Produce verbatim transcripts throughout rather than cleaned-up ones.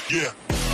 Yeah.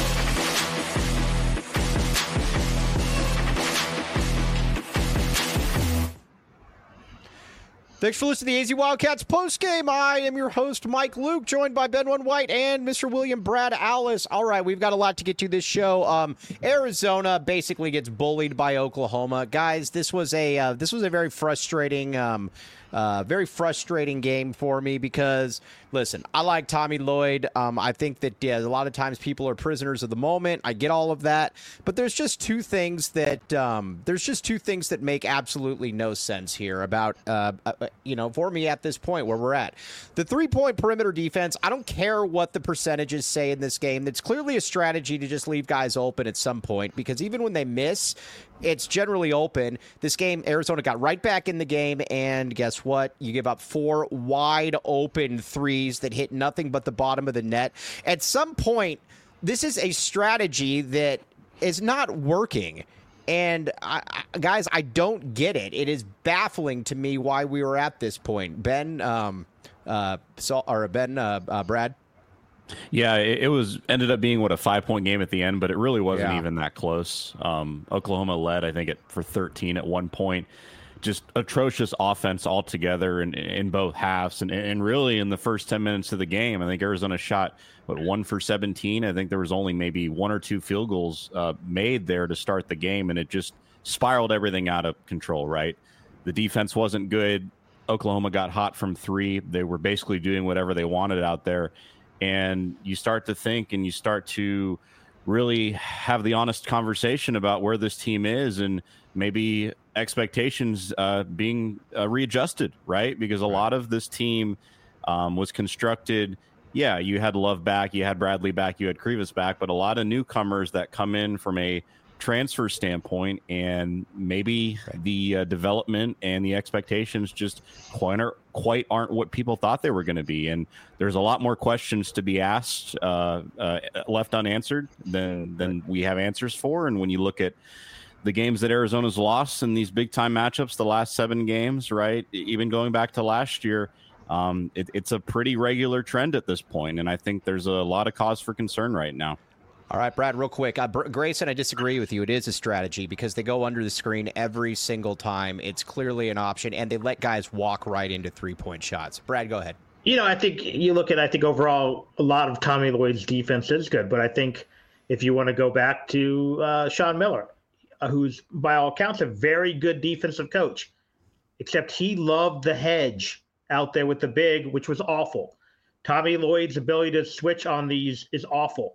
Thanks for listening to the A Z Wildcats postgame. I am your host, Mike Luke, joined by Ben One White and Mister William Brad Alice. All right, we've got a lot to get to this show. Um, Arizona basically gets bullied by Oklahoma. Guys, this was a uh, this was a very frustrating um, uh, very frustrating game for me because, listen, I like Tommy Lloyd. Um, I think that yeah, a lot of times people are prisoners of the moment. I get all of that, but there's just two things that um, there's just two things that make absolutely no sense here about uh, uh, you know, for me at this point where we're at. The three-point perimeter defense, I don't care what the percentages say in this game. It's clearly a strategy to just leave guys open at some point because even when they miss, it's generally open. This game, Arizona got right back in the game, and guess what? You give up four wide open threes that hit nothing but the bottom of the net. At some point, this is a strategy that is not working. And, I, I, guys, I don't get it. It is baffling to me why we were at this point. Ben, um, uh, so, or Ben, uh, uh, Brad? Yeah, it, it was ended up being, what, a five-point game at the end, but it really wasn't yeah. even that close. Um, Oklahoma led, I think, it for thirteen at one point. Just atrocious offense altogether in, in both halves. And, and really in the first ten minutes of the game, I think Arizona shot, what, one for seventeen? I think there was only maybe one or two field goals uh, made there to start the game, and it just spiraled everything out of control, right? The defense wasn't good. Oklahoma got hot from three. They were basically doing whatever they wanted out there. And you start to think and you start to really have the honest conversation about where this team is and maybe expectations uh, being uh, readjusted, right? Because a lot of this team um, was constructed. Yeah, you had Love back, you had Bradley back, you had Krivas back, but a lot of newcomers that come in from a transfer standpoint, and maybe the uh, development and the expectations just quite aren't, quite aren't what people thought they were going to be. And there's a lot more questions to be asked, uh, uh, left unanswered than than we have answers for. And when you look at the games that Arizona's lost in these big time matchups, the last seven games, right, even going back to last year, um, it, it's a pretty regular trend at this point. And I think there's a lot of cause for concern right now. All right, Brad, real quick. Uh, Grayson, I disagree with you. It is a strategy because they go under the screen every single time. It's clearly an option, and they let guys walk right into three-point shots. Brad, go ahead. You know, I think you look at, I think overall, a lot of Tommy Lloyd's defense is good. But I think if you want to go back to uh, Sean Miller, uh, who's by all accounts a very good defensive coach, except he loved the hedge out there with the big, which was awful. Tommy Lloyd's ability to switch on these is awful.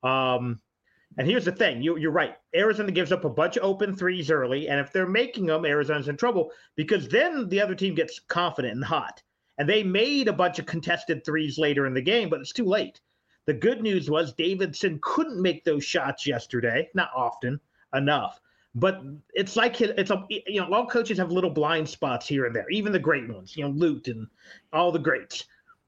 Um, and here's the thing. You, you're right. Arizona gives up a bunch of open threes early, and if they're making them, Arizona's in trouble because then the other team gets confident and hot. And they made a bunch of contested threes later in the game, but it's too late. The good news was Davidson couldn't make those shots yesterday, not often enough. But it's like it's a you know all coaches have little blind spots here and there, even the great ones. You know, Lute and all the greats.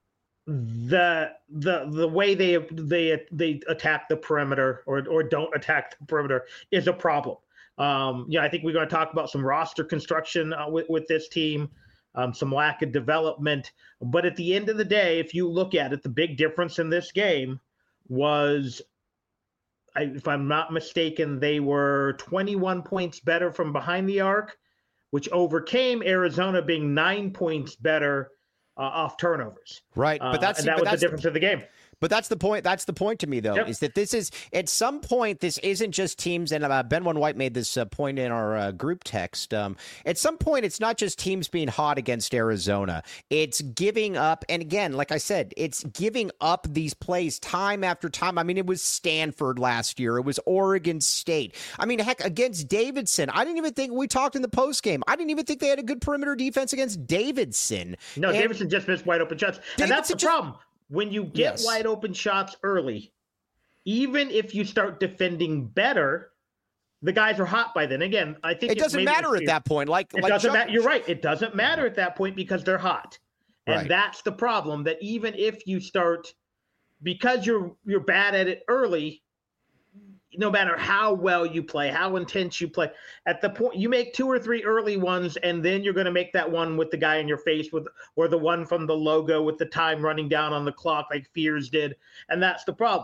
The the the way they they they attack the perimeter or or don't attack the perimeter is a problem. Um, yeah, I think we're going to talk about some roster construction uh, with with this team, um, some lack of development. But at the end of the day, if you look at it, the big difference in this game was, I, if I'm not mistaken, they were twenty-one points better from behind the arc, which overcame Arizona being nine points better Uh, off turnovers. Right. But that's, uh, and that but was that's the difference of the game. But that's the point. That's the point to me, though, Yep. is that this is at some point, this isn't just teams. And uh, Ben One White made this uh, point in our uh, group text. Um, at some point, it's not just teams being hot against Arizona. It's giving up. And again, like I said, it's giving up these plays time after time. I mean, it was Stanford last year. It was Oregon State. I mean, heck, against Davidson. I didn't even think we talked in the post game. I didn't even think they had a good perimeter defense against Davidson. No, and Davidson just missed wide open shots. Davidson and that's the just, problem. When you get yes. wide open shots early, even if you start defending better, the guys are hot by then. Again, I think it doesn't matter at that point. Like, it like doesn't Chuck, matter. You're right. It doesn't matter at that point because they're hot, and Right. that's the problem. That even if you start, because you're you're bad at it early, no matter how well you play, how intense you play, at the point you make two or three early ones, and then you're going to make that one with the guy in your face with, or the one from the logo with the time running down on the clock like Fears did. And that's the problem.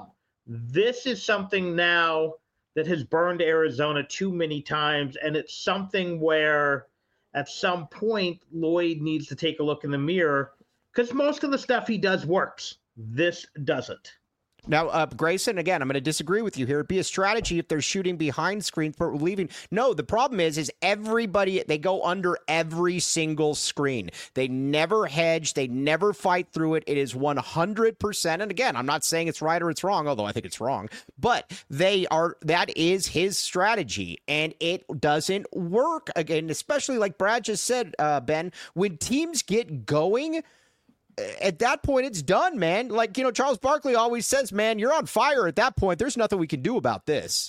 This is something now that has burned Arizona too many times, and it's something where at some point Lloyd needs to take a look in the mirror because most of the stuff he does works. This doesn't. Now, uh, Grayson, again, I'm going to disagree with you here. It'd be a strategy if they're shooting behind screen for leaving. No, the problem is, is everybody, they go under every single screen. They never hedge. They never fight through it. It is one hundred percent. And again, I'm not saying it's right or it's wrong, although I think it's wrong. But they are, that is his strategy. And it doesn't work. Again, especially like Brad just said, uh, Ben, when teams get going, at that point, it's done, man. Like, you know, Charles Barkley always says, man, you're on fire at that point. There's nothing we can do about this.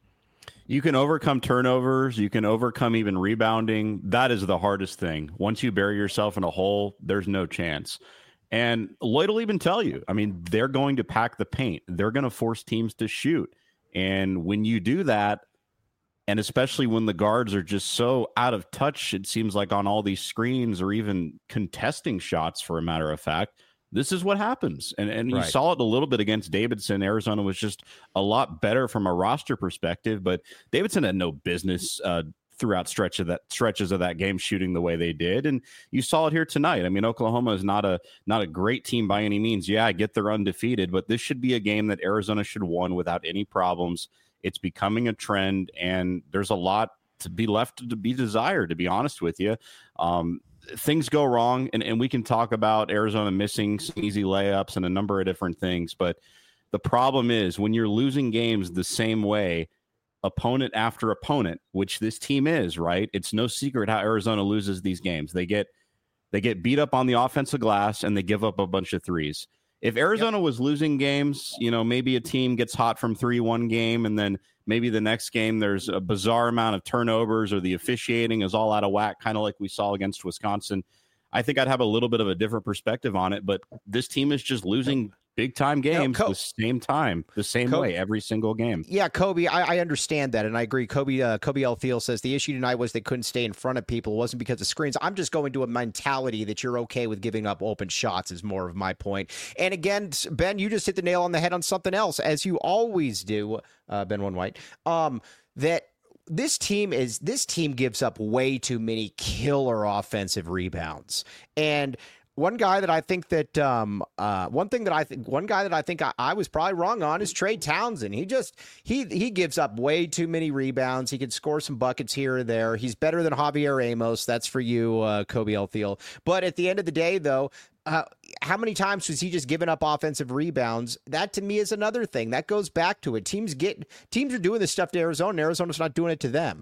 You can overcome turnovers. You can overcome even rebounding. That is the hardest thing. Once you bury yourself in a hole, there's no chance. And Lloyd will even tell you, I mean, they're going to pack the paint. They're going to force teams to shoot. And when you do that, and especially when the guards are just so out of touch, it seems like on all these screens or even contesting shots, for a matter of fact, this is what happens. And and right. You saw it a little bit against Davidson. Arizona was just a lot better from a roster perspective, but Davidson had no business uh, throughout stretch of that stretches of that game shooting the way they did. And you saw it here tonight. I mean, Oklahoma is not a not a great team by any means. Yeah, I get they're undefeated, but this should be a game that Arizona should have won without any problems. It's becoming a trend, and there's a lot to be left to be desired, to be honest with you. Um, things go wrong, and, and we can talk about Arizona missing some easy layups and a number of different things. But the problem is when you're losing games the same way, opponent after opponent, which this team is, right? It's no secret how Arizona loses these games. They get they get beat up on the offensive glass, and they give up a bunch of threes. If Arizona yep. was losing games, you know, maybe a team gets hot from three one game, and then maybe the next game there's a bizarre amount of turnovers or the officiating is all out of whack, kind of like we saw against Wisconsin. I think I'd have a little bit of a different perspective on it, but this team is just losing big-time games no, Co- the same time, the same Co- way, every single game. Yeah, Kobe, I, I understand that, and I agree. Kobe uh, Kobe L. Thiel says the issue tonight was they couldn't stay in front of people. It wasn't because of screens. I'm just going to a mentality that you're okay with giving up open shots is more of my point. And again, Ben, you just hit the nail on the head on something else, as you always do, uh, Ben One White, um, that this team is this team gives up way too many killer offensive rebounds. And One guy that I think that um, uh, one thing that I think one guy that I think I, I was probably wrong on is Trey Townsend. He just he he gives up way too many rebounds. He can score some buckets here or there. He's better than Javier Amos. That's for you, uh, Kobe L. Thiel. But at the end of the day, though, uh, how many times was he just giving up offensive rebounds? That to me is another thing that goes back to it. Teams get teams are doing this stuff to Arizona. And Arizona's not doing it to them.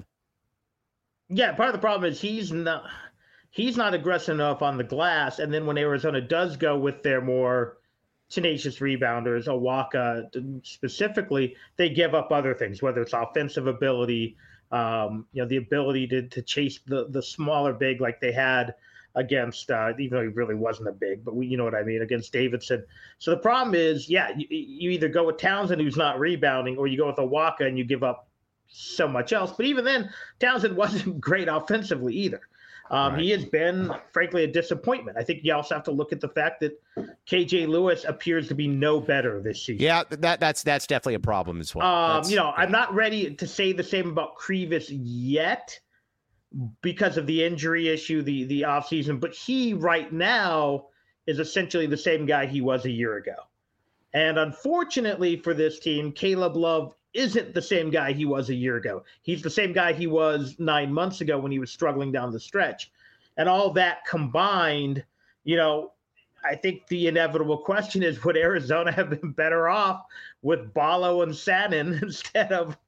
Yeah, part of the problem is he's not. He's not aggressive enough on the glass, and then when Arizona does go with their more tenacious rebounders, Awaka specifically, they give up other things, whether it's offensive ability, um, you know, the ability to to chase the the smaller big like they had against, uh, even though he really wasn't a big, but we, you know what I mean, against Davidson. So the problem is, yeah, you, you either go with Townsend who's not rebounding, or you go with Awaka and you give up so much else. But even then, Townsend wasn't great offensively either. Um, right. He has been, frankly, a disappointment. I think you also have to look at the fact that K J Lewis appears to be no better this season. Yeah, that that's that's definitely a problem as well. Um, you know, yeah. I'm not ready to say the same about Krivas yet because of the injury issue, the the offseason. But he right now is essentially the same guy he was a year ago. And unfortunately for this team, Caleb Love isn't the same guy he was a year ago. He's the same guy he was nine months ago when he was struggling down the stretch. And all that combined, you know, I think the inevitable question is, would Arizona have been better off with Ballo and Sanin instead of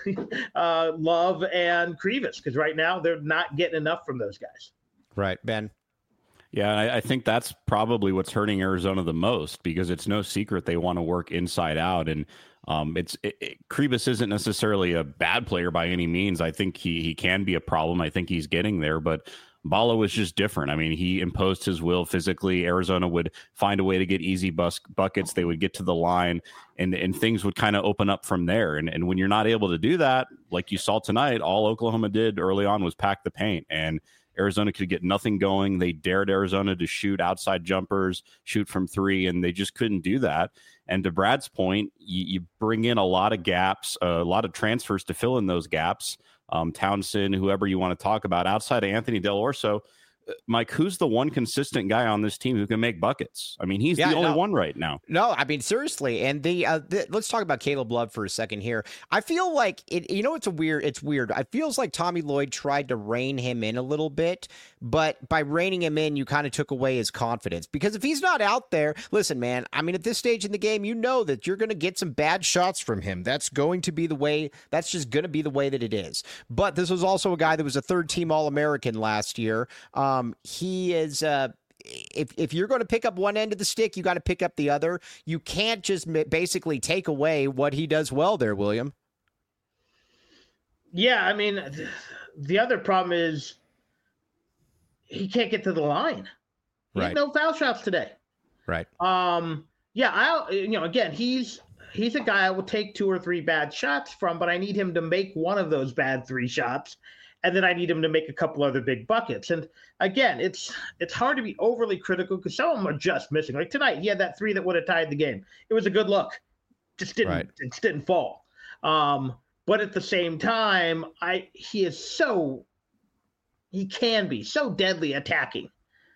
uh, Love and Krivas? Because right now they're not getting enough from those guys. Right, Ben. Yeah, I, I think that's probably what's hurting Arizona the most, because it's no secret they want to work inside out. And um, it's it, it, Krivas isn't necessarily a bad player by any means. I think he he can be a problem. I think he's getting there, but Ballo was just different. I mean, he imposed his will physically. Arizona would find a way to get easy bus- buckets. They would get to the line, and, and things would kind of open up from there. And, and when you're not able to do that, like you saw tonight, all Oklahoma did early on was pack the paint. And Arizona could get nothing going. They dared Arizona to shoot outside jumpers, shoot from three, and they just couldn't do that. And to Brad's point, you, you bring in a lot of gaps, a lot of transfers to fill in those gaps. Um, Townsend, whoever you want to talk about, outside of Anthony Del Orso. Mike, who's the one consistent guy on this team who can make buckets? I mean, he's yeah, the only no, one right now. No, I mean, seriously. And the, uh, the let's talk about Caleb Love for a second here. I feel like it, you know, it's a weird, it's weird. It feels like Tommy Lloyd tried to rein him in a little bit, but by reining him in, you kind of took away his confidence, because if he's not out there, listen, man, I mean, at this stage in the game, you know that you're going to get some bad shots from him. That's going to be the way, that's just going to be the way that it is. But this was also a guy that was a third team All-American last year. Um, he is, uh, if if you're going to pick up one end of the stick, you got to pick up the other. You can't just basically take away what he does well there, William. Yeah, I mean, the other problem is he can't get to the line. He right. had no foul shots today. Right. Um. Yeah. I. You know. Again, he's he's a guy I will take two or three bad shots from, but I need him to make one of those bad three shots. And then I need him to make a couple other big buckets. And again, it's it's hard to be overly critical because some of them are just missing. Like tonight, he had that three that would have tied the game. It was a good look, just didn't right. it just didn't fall. Um, but at the same time, I he is so he can be so deadly attacking.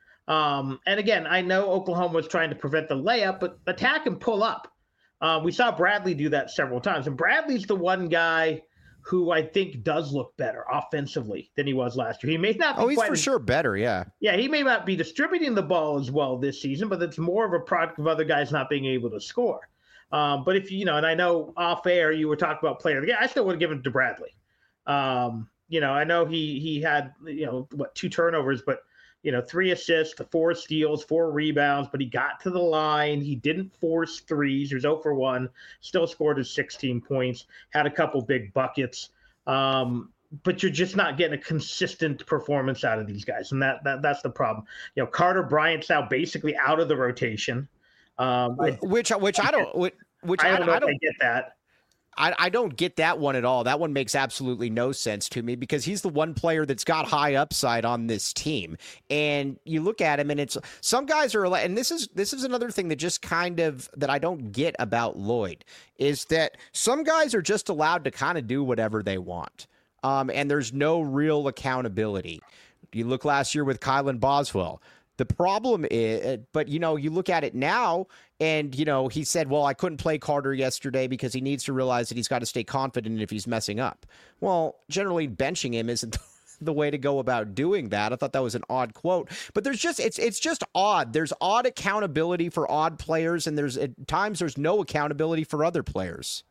Um, and again, I know Oklahoma was trying to prevent the layup, but attack and pull up. Uh, we saw Bradley do that several times, and Bradley's the one guy who I think does look better offensively than he was last year. He may not be Oh, he's quite for as, sure better, yeah. Yeah, he may not be distributing the ball as well this season, but it's more of a product of other guys not being able to score. Um, but if you know, and I know off air you were talking about player of the game, I still would have given it to Bradley. Um, you know, I know he he had, you know, what, two turnovers, but you know, three assists, four steals, four rebounds, but he got to the line. He didn't force threes. He was zero for one, still scored his sixteen points, had a couple big buckets. Um, but you're just not getting a consistent performance out of these guys. And that, that that's the problem. You know, Carter Bryant's now basically out of the rotation. Um, which, which I don't, which, which I don't I, know I if don't I get that. I, I don't get that one at all. That one makes absolutely no sense to me because he's the one player that's got high upside on this team. And you look at him and it's some guys are, and this is, this is another thing that just kind of, that I don't get about Lloyd is that some guys are just allowed to kind of do whatever they want. Um, and there's no real accountability. You look last year with Kylan Boswell. The problem is, but, you know, you look at it now and, you know, he said, well, I couldn't play Carter yesterday because he needs to realize that he's got to stay confident if he's messing up. Well, generally benching him isn't the way to go about doing that. I thought that was an odd quote, but there's just, it's, it's just odd. There's odd accountability for odd players. And there's at times there's no accountability for other players.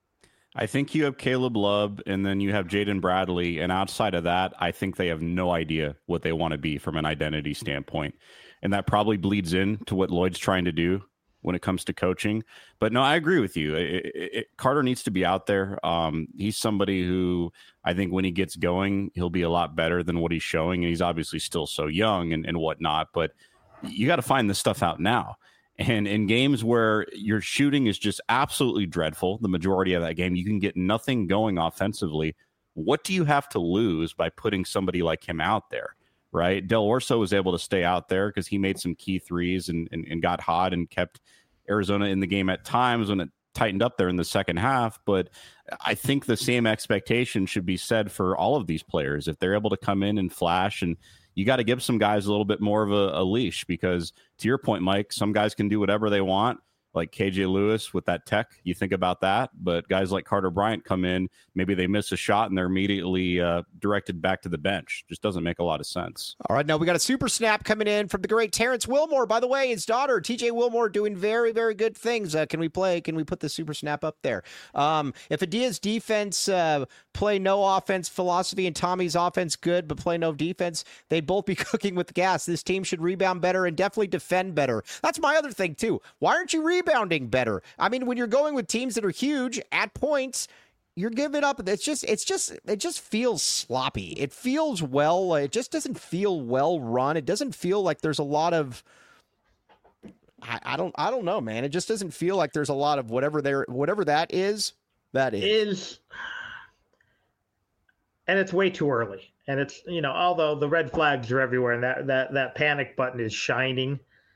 I think you have Caleb Love and then you have Jaden Bradley. And outside of that, I think they have no idea what they want to be from an identity standpoint. And that probably bleeds into what Lloyd's trying to do when it comes to coaching. But no, I agree with you. It, it, it, Carter needs to be out there. Um, he's somebody who I think when he gets going, he'll be a lot better than what he's showing. And he's obviously still so young and, and whatnot. But you got to find this stuff out now. And in games where your shooting is just absolutely dreadful, the majority of that game, you can get nothing going offensively. What do you have to lose by putting somebody like him out there, right? Del Orso was able to stay out there because he made some key threes and, and, and got hot and kept Arizona in the game at times when it tightened up there in the second half. But I think the same expectation should be said for all of these players. If they're able to come in and flash, and you got to give some guys a little bit more of a, a leash because, to your point, Mike, some guys can do whatever they want, like K J Lewis with that tech. You think about that. But guys like Carter Bryant come in, maybe they miss a shot and they're immediately uh, directed back to the bench. Just doesn't make a lot of sense. All right, now we got a super snap coming in from the great Terrence Wilmore. By the way, his daughter, T J Wilmore, doing very, very good things. Uh, can we play? Can we put the super snap up there? Um, if Adia's defense uh, play no offense philosophy and Tommy's offense good but play no defense, they'd both be cooking with the gas. This team should rebound better and definitely defend better. That's my other thing, too. Why aren't you rebounding better? I mean, when you're going with teams that are huge at points, you're giving up. It's just, it's just, it just feels sloppy. It feels well, it just doesn't feel well run. It doesn't feel like there's a lot of, I, I don't, I don't know, man. It just doesn't feel like there's a lot of whatever there, whatever that is, that is. Is, and it's way too early. And it's, you know, although the red flags are everywhere and that, that, that panic button is shining,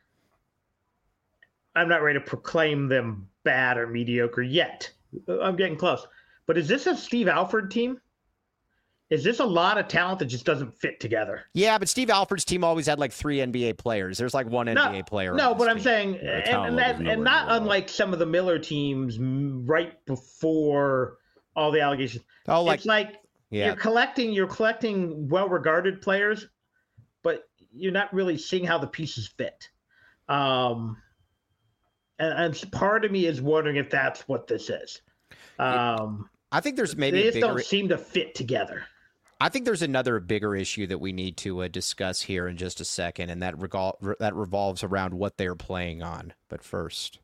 I'm not ready to proclaim them bad or mediocre yet. I'm getting close. But is this a Steve Alford team? Is this a lot of talent that just doesn't fit together? Yeah, but Steve Alford's team always had like three N B A players. There's like one no, N B A player. No, but I'm team. saying, yeah, and, and, that, and not unlike some of the Miller teams right before all the allegations. Oh, like, it's like yeah. you're collecting, you're collecting well-regarded players, but you're not really seeing how the pieces fit. Um, and, and part of me is wondering if that's what this is. Um, I think there's maybe they just bigger... don't seem to fit together. I think there's another bigger issue that we need to uh, discuss here in just a second, and that revol- re- that revolves around what they're playing on. But first,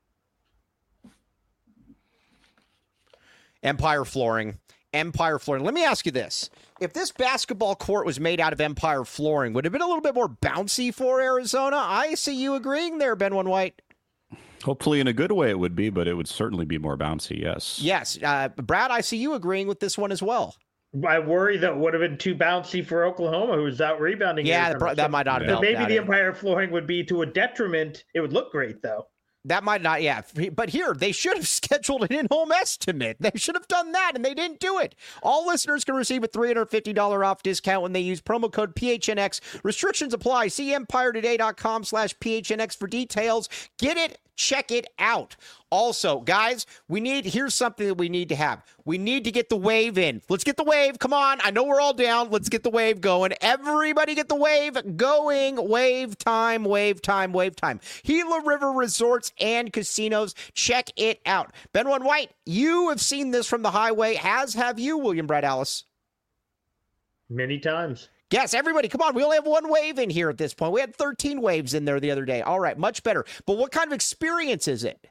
Empire Flooring. Empire Flooring. Let me ask you this. If this basketball court was made out of Empire Flooring, would it have been a little bit more bouncy for Arizona? I see you agreeing there, Ben One White. Hopefully in a good way it would be, but it would certainly be more bouncy, yes. Yes. Uh, Brad, I see you agreeing with this one as well. I worry that it would have been too bouncy for Oklahoma, who's out rebounding. Yeah, that, that might not have So helped. maybe the in. Empire Flooring would be to a detriment. It would look great, though. That might not, yeah. But here, they should have scheduled an in-home estimate. They should have done that, and they didn't do it. All listeners can receive a three hundred fifty dollars off discount when they use promo code P H N X. Restrictions apply. See empire today dot com slash P H N X for details. Get it. Check it out. Also, guys, we need, here's something that we need to have. We need to get the wave in. Let's get the wave. Come on. I know we're all down. Let's get the wave going. Everybody get the wave going. Wave time, wave time, wave time. Gila River Resorts and Casinos. Check it out. Ben One White, you have seen this from the highway, as have you, William Brad Allis. Many times. Yes, everybody, come on. We only have one wave in here at this point. We had thirteen waves in there the other day. All right, much better. But what kind of experience is it?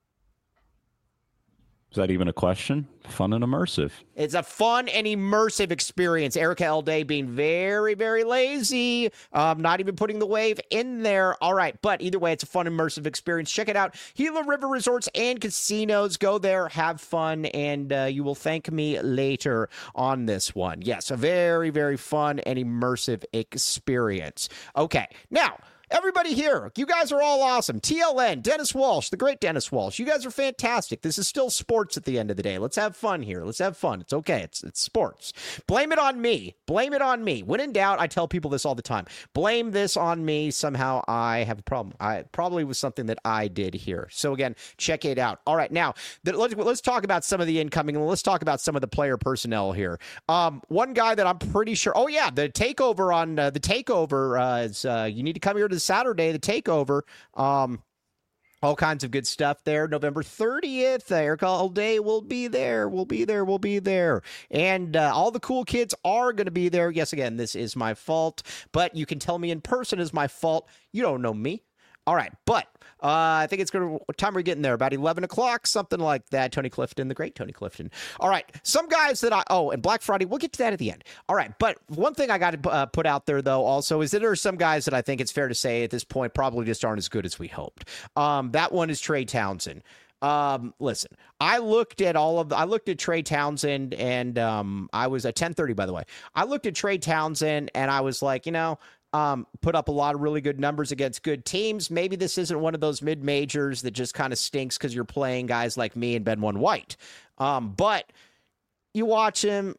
Is that even a question? Fun and immersive. It's a fun and immersive experience. Erica Elday being very, very lazy. Um, not even putting the wave in there. All right. But either way, it's a fun, immersive experience. Check it out. Gila River Resorts and Casinos. Go there, have fun, and uh, you will thank me later on this one. Yes, a very, very fun and immersive experience. Okay. Now, everybody here, you guys are all awesome. T L N, Dennis Walsh, the great Dennis Walsh. You guys are fantastic. This is still sports at the end of the day. Let's have fun here. Let's have fun. It's okay. It's it's sports. Blame it on me. Blame it on me. When in doubt, I tell people this all the time. Blame this on me. Somehow I have a problem. I probably was something that I did here. So again, check it out. All right, now the, let's let's talk about some of the incoming and let's talk about some of the player personnel here. Um, one guy that I'm pretty sure. Oh yeah, the takeover on uh, the takeover uh, is uh, you need to come here to Saturday, the takeover. Um, all kinds of good stuff there. November thirtieth, Erica Elday will be there. We'll be there. We'll be there. And uh, all the cool kids are going to be there. Yes, again, this is my fault, but you can tell me in person is my fault. You don't know me. All right, but uh, I think it's going to, what time are we getting there? About eleven o'clock, something like that. Tony Clifton, the great Tony Clifton. All right, some guys that I, oh, and Black Friday, we'll get to that at the end. All right, but one thing I got to uh, put out there, though, also, is that there are some guys that I think it's fair to say at this point probably just aren't as good as we hoped. Um, that one is Trey Townsend. Um, listen, I looked at all of the, I looked at Trey Townsend and um, I was at ten thirty, by the way. I looked at Trey Townsend and I was like, you know, Um, put up a lot of really good numbers against good teams. Maybe this isn't one of those mid-majors that just kind of stinks because you're playing guys like me and Ben One White. Um, but you watch him,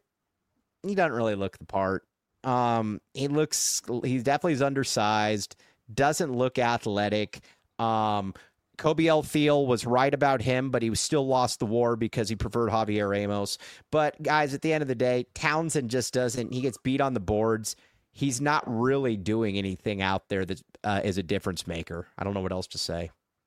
he doesn't really look the part. Um, he looks, he definitely is undersized, doesn't look athletic. Um, Kobe L. Thiel was right about him, but he still lost the war because he preferred Javier Ramos. But guys, at the end of the day, Townsend just doesn't, he gets beat on the boards. He's not really doing anything out there that uh, is a difference maker. I don't know what else to say.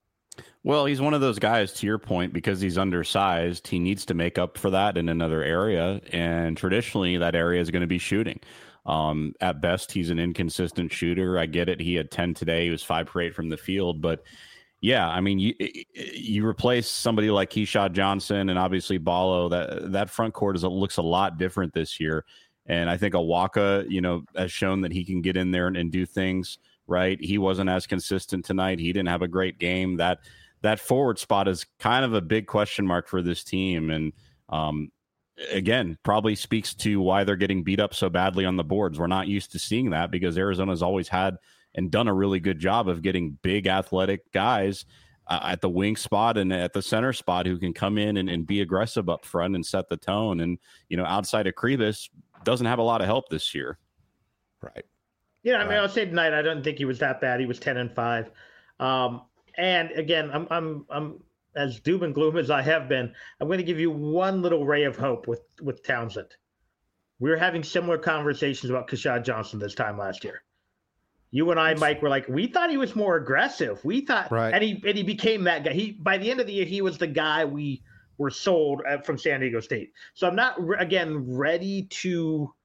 Well, he's one of those guys, to your point, because he's undersized. He needs to make up for that in another area. And traditionally, that area is going to be shooting. Um, at best, he's an inconsistent shooter. I get it. He had ten today. He was five for eight from the field. But yeah, I mean, you you replace somebody like Keyshawn Johnson and obviously Ballo. That, that front court is, looks a lot different this year. And I think Awaka, you know, has shown that he can get in there and, and do things right. He wasn't as consistent tonight. He didn't have a great game. That that forward spot is kind of a big question mark for this team. And um, again, probably speaks to why they're getting beat up so badly on the boards. We're not used to seeing that because Arizona's always had and done a really good job of getting big athletic guys uh, at the wing spot and at the center spot who can come in and, and be aggressive up front and set the tone. And, you know, outside of Kribis, doesn't have a lot of help this year. Right. Yeah, I mean, right. I'll say tonight, I don't think he was that bad. He was ten and five. Um, and again, I'm, I'm, I'm as doom and gloom as I have been. I'm going to give you one little ray of hope with, with Townsend. We were having similar conversations about Keshad Johnson this time last year. You and I, Mike, were like, we thought he was more aggressive. We thought, right. and he and he became that guy. He by the end of the year, he was the guy we were sold at, from San Diego State. So I'm not again ready to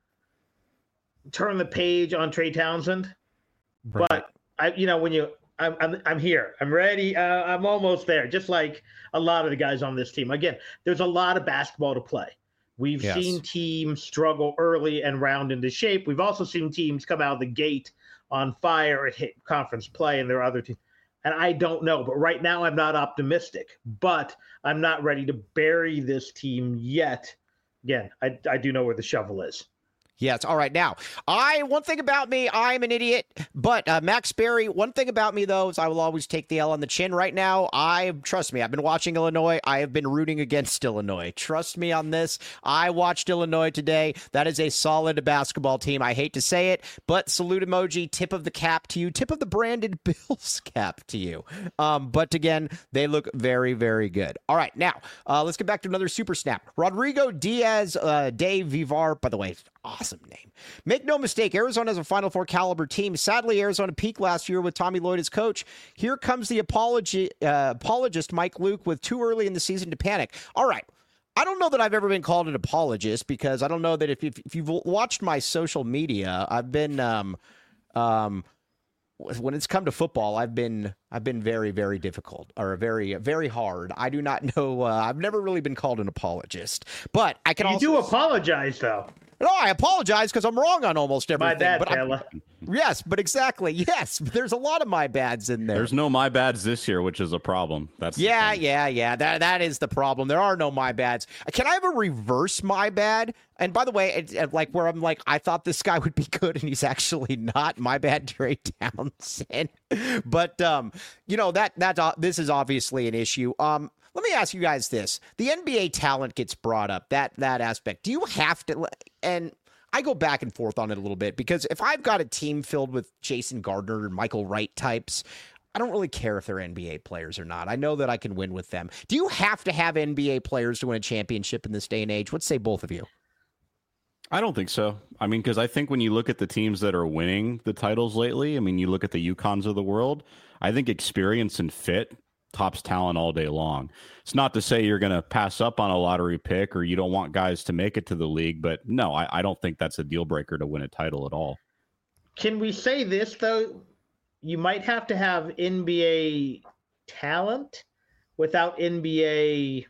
turn the page on Trey Townsend, right. but I, you know, when you, I'm I'm, I'm here. I'm ready. Uh, I'm almost there. Just like a lot of the guys on this team. Again, there's a lot of basketball to play. We've yes. seen teams struggle early and round into shape. We've also seen teams come out of the gate on fire and hit conference play, and there are other teams. And I don't know, but right now I'm not optimistic. But I'm not ready to bury this team yet. Again, I, I do know where the shovel is. Yes. All right. Now, I one thing about me, I'm an idiot. But uh, Max Berry, one thing about me though is I will always take the L on the chin. Right now, I trust me. I've been watching Illinois. I have been rooting against Illinois. Trust me on this. I watched Illinois today. That is a solid basketball team. I hate to say it, but salute emoji, tip of the cap to you, tip of the Brandon Bills cap to you. Um, but again, they look very, very good. All right. Now, uh, let's get back to another super snap. Rodrigo Diaz uh, de Vivar. By the way, awesome name. Make no mistake, Arizona is a Final Four caliber team. Sadly, Arizona peaked last year with Tommy Lloyd as coach. Here comes the apology, uh, apologist Mike Luke with too early in the season to panic. All right. I don't know that I've ever been called an apologist because I don't know that if, if, if you've watched my social media, I've been um, um, when it's come to football, I've been I've been very, very difficult or very, very hard. I do not know. Uh, I've never really been called an apologist, but I can you also do apologize though. No, I apologize because I'm wrong on almost everything. My bad, but Taylor. Yes, but exactly. Yes, there's a lot of my bads in there. There's no my bads this year, which is a problem. That's yeah, yeah, yeah. That that is the problem. There are no my bads. Can I have a reverse my bad? And by the way, it's like where I'm like, I thought this guy would be good, and he's actually not. My bad, Trey Townsend. But um, you know that that uh, this is obviously an issue. Um. Let me ask you guys this. The N B A talent gets brought up, that that aspect. Do you have to, and I go back and forth on it a little bit, because if I've got a team filled with Jason Gardner and Michael Wright types, I don't really care if they're N B A players or not. I know that I can win with them. Do you have to have N B A players to win a championship in this day and age? What say both of you? I don't think so. I mean, because I think when you look at the teams that are winning the titles lately, I mean, you look at the UConns of the world, I think experience and fit tops talent all day long. It's not to say you're going to pass up on a lottery pick or you don't want guys to make it to the league, but no, I, I don't think that's a deal breaker to win a title at all. Can we say this, though? You might have to have N B A talent without N B A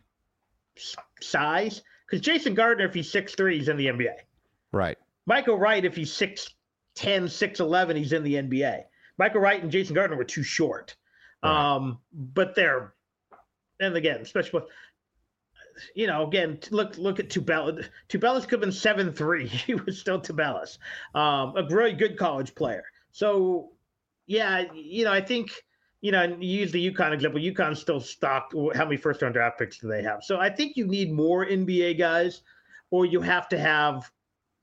size. Because Jason Gardner, if he's six three, he's in the N B A. Right. Michael Wright, if he's six ten, six eleven, he's in the N B A. Michael Wright and Jason Gardner were too short. Right. Um, but they're, and again, especially, you know, again, look look at Tubelis. Tubelis could have been seven three. He was still Tubelis. Um, a really good college player. So, yeah, you know, I think, you know, you use the UConn example. UConn's still stocked. How many first-round draft picks do they have? So I think you need more N B A guys, or you have to have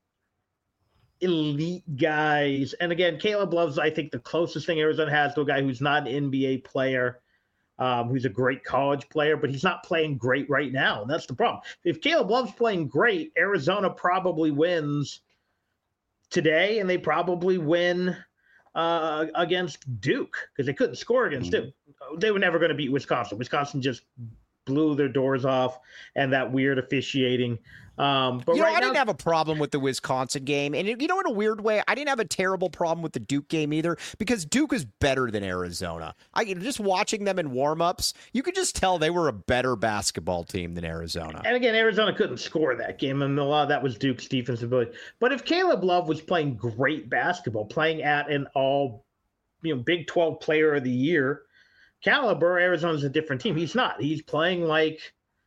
elite guys. And again, Caleb Love's, I think, the closest thing Arizona has to a guy who's not an N B A player, um, who's a great college player, but he's not playing great right now. And that's the problem. If Caleb Love's playing great, Arizona probably wins today, and they probably win uh, against Duke, because they couldn't score against mm-hmm. Duke. They were never going to beat Wisconsin. Wisconsin just blew their doors off, and that weird officiating. Um, but you know, right I now, didn't have a problem with the Wisconsin game. And, you know, in a weird way, I didn't have a terrible problem with the Duke game either, because Duke is better than Arizona. I just watching them in warm-ups, you could just tell they were a better basketball team than Arizona. And again, Arizona couldn't score that game, and a lot of that was Duke's defensive ability. But if Caleb Love was playing great basketball, playing at an all, you know, Big twelve player of the year caliber, Arizona's a different team. He's not. He's playing like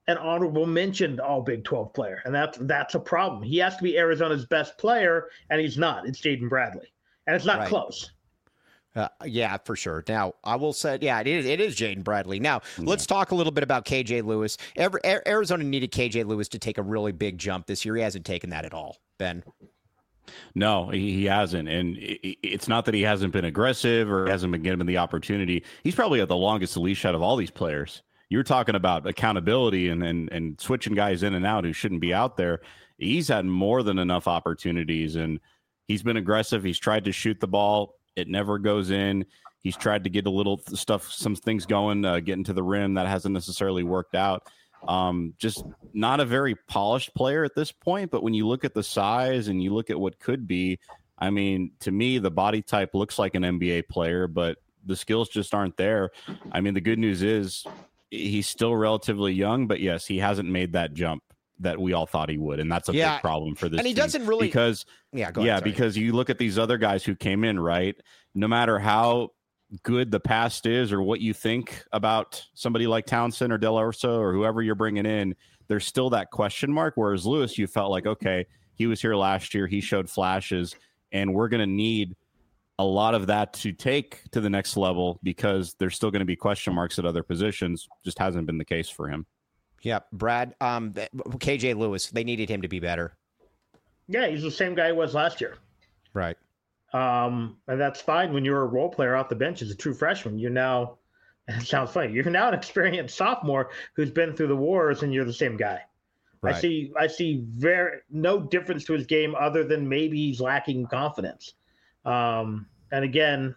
an honorable mention all Big twelve player, and that's that's a problem. He has to be Arizona's best player, and he's not. It's Jaden Bradley, and it's not Right. close. Uh, yeah, for sure. Now, I will say, yeah, it is, it is Jaden Bradley. Now, yeah. let's talk a little bit about K J Lewis. Every, Arizona needed K J Lewis to take a really big jump this year. He hasn't taken that at all, Ben. No, he, he hasn't. And it, it's not that he hasn't been aggressive or hasn't been given the opportunity. He's probably got the longest leash out of all these players. You're talking about accountability and, and, and switching guys in and out who shouldn't be out there. He's had more than enough opportunities, and he's been aggressive. He's tried to shoot the ball. It never goes in. He's tried to get a little stuff, some things going, uh, getting to the rim. That hasn't necessarily worked out. Um, just not a very polished player at this point. But when you look at the size and you look at what could be, I mean, to me, the body type looks like an N B A player, but the skills just aren't there. I mean, the good news is he's still relatively young, but yes, he hasn't made that jump that we all thought he would, and that's a yeah. big problem for this and he team. doesn't really because yeah go yeah ahead, because you look at these other guys who came in, right? No matter how good the past is or what you think about somebody like Townsend or Del Orso or whoever you're bringing in, there's still that question mark. Whereas Lewis, you felt like, okay, he was here last year, he showed flashes, and we're going to need a lot of that to take to the next level because there's still going to be question marks at other positions. Just hasn't been the case for him. Yeah, Brad, um, K J Lewis, they needed him to be better. Yeah, he's the same guy he was last year. Right. Um, and that's fine when you're a role player off the bench as a true freshman. You're now, it sounds funny, you're now an experienced sophomore who's been through the wars, and you're the same guy. Right. I see I see very no difference to his game other than maybe he's lacking confidence. Um, and again,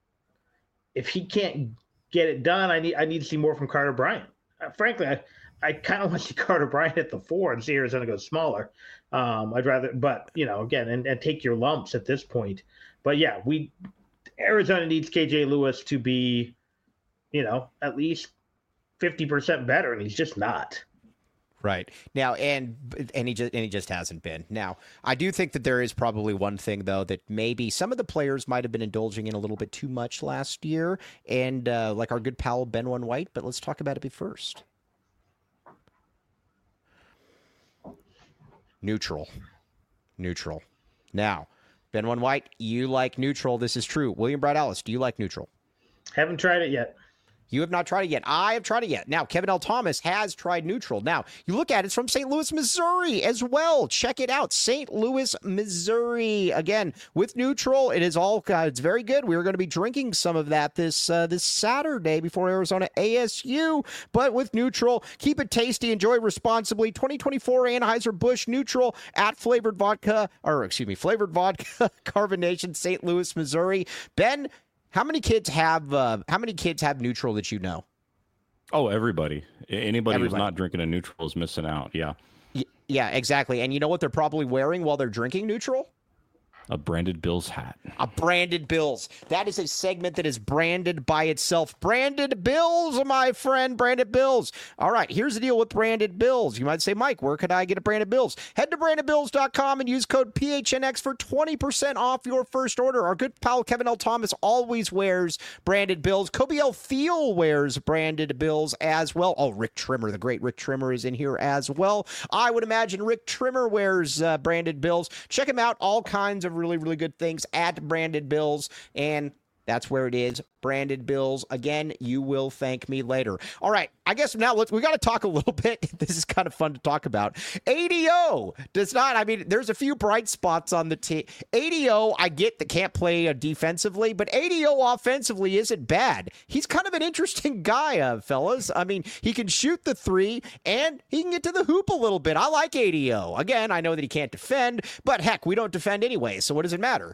if he can't get it done, I need I need to see more from Carter Bryant. Uh, frankly, I I kind of want to see Carter Bryant at the four and see Arizona go smaller. Um, I'd rather, but you know, again, and, and take your lumps at this point. But yeah, we Arizona needs K J Lewis to be, you know, at least fifty percent better, and he's just not. Right now, and and he just and he just hasn't been. Now, I do think that there is probably one thing though that maybe some of the players might have been indulging in a little bit too much last year, and uh, like our good pal Ben One White. But let's talk about it first. Neutral. Neutral. Now, Ben One White, you like neutral. This is true. William Brad Allis, do you like neutral? Haven't tried it yet. You have not tried it yet. I have tried it yet. Now, Kevin L. Thomas has tried neutral. Now, you look at it, it's from Saint Louis, Missouri as well. Check it out. Saint Louis, Missouri. Again, with neutral, it is all, uh, it's very good. We are going to be drinking some of that this uh, this Saturday before Arizona A S U. But with neutral, keep it tasty. Enjoy responsibly. twenty twenty-four Anheuser-Busch Neutral at Flavored Vodka, or excuse me, Flavored Vodka, Carbonation, Saint Louis, Missouri. Ben, How many kids have uh, how many kids have neutral that you know? Oh, everybody. Anybody Everybody. who's not drinking a neutral is missing out. Yeah. Y- yeah, exactly. And you know what they're probably wearing while they're drinking neutral? A branded Bills hat. A branded Bills. That is a segment that is branded by itself. Branded Bills, my friend. Branded Bills. All right, here's the deal with branded Bills. You might say, Mike, where could I get a branded Bills? Head to branded bills dot com and use code P H N X for twenty percent off your first order. Our good pal Kevin L. Thomas always wears branded Bills. Kobe L. Thiel wears branded Bills as well. Oh, Rick Trimmer, the great Rick Trimmer, is in here as well. I would imagine Rick Trimmer wears uh, branded Bills. Check him out. All kinds of really, really good things at Branded Bills, and that's where it is. Branded Bills. Again, you will thank me later. All right, I guess now let's, we got to talk a little bit. This is kind of fun to talk about. A D O does not, I mean, there's a few bright spots on the team. A D O, I get that can't play uh, defensively, but A D O offensively isn't bad. He's kind of an interesting guy, uh, fellas. I mean, he can shoot the three, and he can get to the hoop a little bit. I like A D O. Again, I know that he can't defend, but heck, we don't defend anyway, so what does it matter?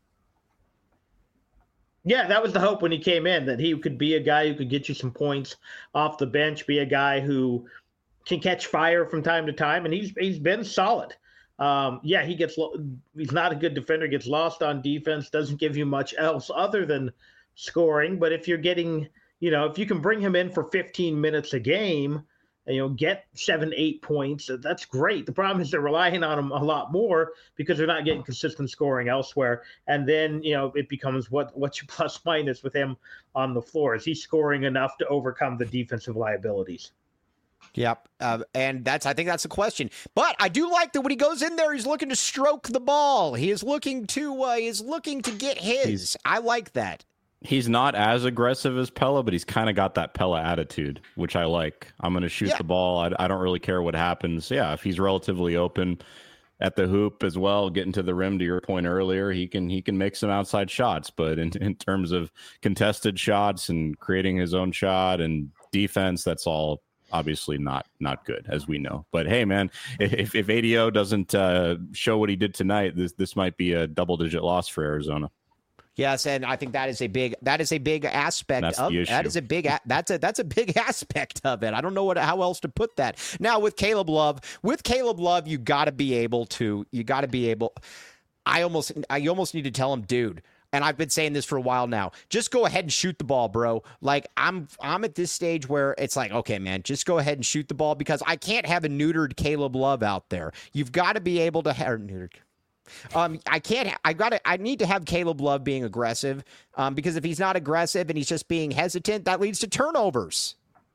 Yeah, that was the hope when he came in, that he could be a guy who could get you some points off the bench, be a guy who can catch fire from time to time, and he's he's been solid. Um, yeah, he gets he's not a good defender, gets lost on defense, doesn't give you much else other than scoring. But if you're getting, you know, if you can bring him in for fifteen minutes a game, and, you know, get seven, eight points, that's great. The problem is they're relying on him a lot more because they're not getting consistent scoring elsewhere. And then, you know, it becomes what what's your plus minus with him on the floor? Is he scoring enough to overcome the defensive liabilities? Yep. Uh, and that's, I think that's the question. But I do like that when he goes in there, he's looking to stroke the ball. He is looking to, uh, he is looking to get his. He's, I like that. He's not as aggressive as Pella, but he's kind of got that Pella attitude, which I like. I'm going to shoot yeah. the ball. I, I don't really care what happens. Yeah. If he's relatively open at the hoop as well, getting to the rim, to your point earlier, he can, he can make some outside shots, but in, in terms of contested shots and creating his own shot and defense, that's all obviously not not good, as we know. But hey, man, if if A D O doesn't uh, show what he did tonight, this this might be a double digit loss for Arizona. Yes, and I think that is a big that is a big aspect that's of the issue. that is a big that's a that's a big aspect of it. I don't know what how else to put that. Now with Caleb Love, with Caleb Love, you got to be able to you got to be able. I almost I almost need to tell him, dude. And I've been saying this for a while now. Just go ahead and shoot the ball, bro. Like I'm I'm at this stage where it's like, okay, man, just go ahead and shoot the ball because I can't have a neutered Caleb Love out there. You've got to be able to have neutered. Um, I can't. I got to. I need to have Caleb Love being aggressive. Um, because if he's not aggressive and he's just being hesitant, that leads to turnovers.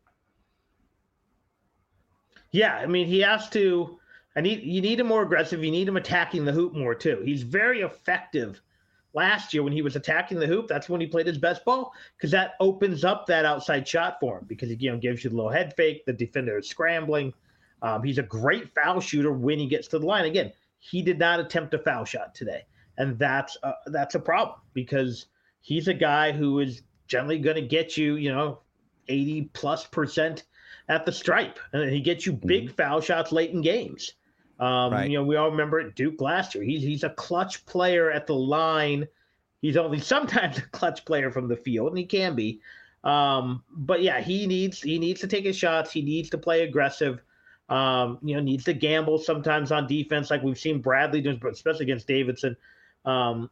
Yeah, I mean, he has to. I need. You need him more aggressive. You need him attacking the hoop more too. He's very effective. Last year when he was attacking the hoop, that's when he played his best ball because that opens up that outside shot for him because he you know, gives you the little head fake. The defender is scrambling. Um, he's a great foul shooter when he gets to the line. Again, he did not attempt a foul shot today, and that's a, that's a problem because he's a guy who is generally going to get you, you know, eighty plus percent at the stripe, and he gets you big mm-hmm. foul shots late in games. Um, right. You know, we all remember at Duke last year. He's he's a clutch player at the line. He's only sometimes a clutch player from the field, and he can be. Um, but yeah, he needs he needs to take his shots. He needs to play aggressive. Um, you know, needs to gamble sometimes on defense, like we've seen Bradley do, especially against Davidson. Um,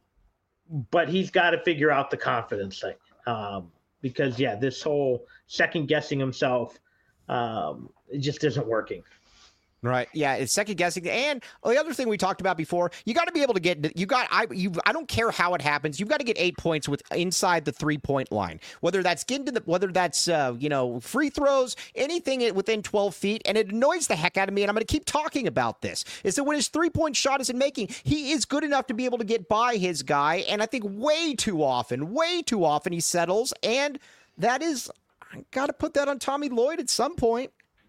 but he's got to figure out the confidence thing um, because yeah, this whole second guessing himself, um, it just isn't working. Right. Yeah. It's second guessing. And the other thing we talked about before, you got to be able to get, you got, I, you, I don't care how it happens. You've got to get eight points with inside the three point line, whether that's getting to the, whether that's, uh, you know, free throws, anything within twelve feet. And it annoys the heck out of me. And I'm going to keep talking about this is that when his three point shot isn't making, he is good enough to be able to get by his guy. And I think way too often, way too often he settles. And that is, I got to put that on Tommy Lloyd at some point.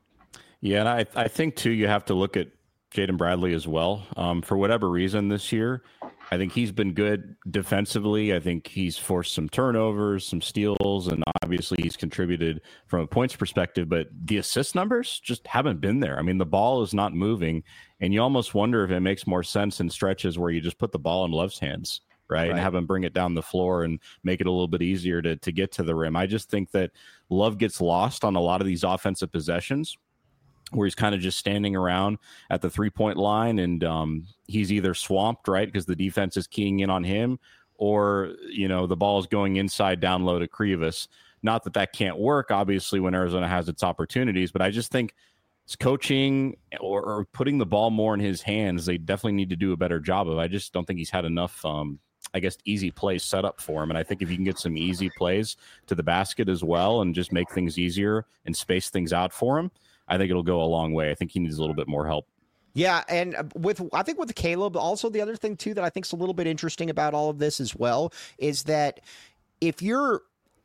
Yeah, and I, I think, too, you have to look at Jaden Bradley as well. Um, for whatever reason this year, I think he's been good defensively. I think he's forced some turnovers, some steals, and obviously he's contributed from a points perspective. But the assist numbers just haven't been there. I mean, the ball is not moving, and you almost wonder if it makes more sense in stretches where you just put the ball in Love's hands, right, right. and have him bring it down the floor and make it a little bit easier to, to get to the rim. I just think that Love gets lost on a lot of these offensive possessions, where he's kind of just standing around at the three-point line, and um, he's either swamped, right, because the defense is keying in on him, or, you know, the ball is going inside down low to Krivas. Not that that can't work, obviously, when Arizona has its opportunities, but I just think it's coaching or, or putting the ball more in his hands, they definitely need to do a better job of. I just don't think he's had enough, um, I guess, easy plays set up for him. And I think if you can get some easy plays to the basket as well and just make things easier and space things out for him, I think it'll go a long way. I think he needs a little bit more help. Yeah, and with I think with Caleb, also the other thing, too, that I think is a little bit interesting about all of this as well is that if you're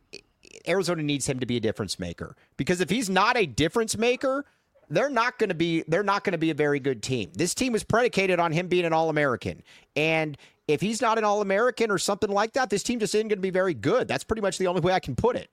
Arizona needs him to be a difference maker, because if he's not a difference maker, they're not going to be they're not going to be a very good team. This team is predicated on him being an All-American. And if he's not an All-American or something like that, this team just isn't going to be very good. That's pretty much the only way I can put it.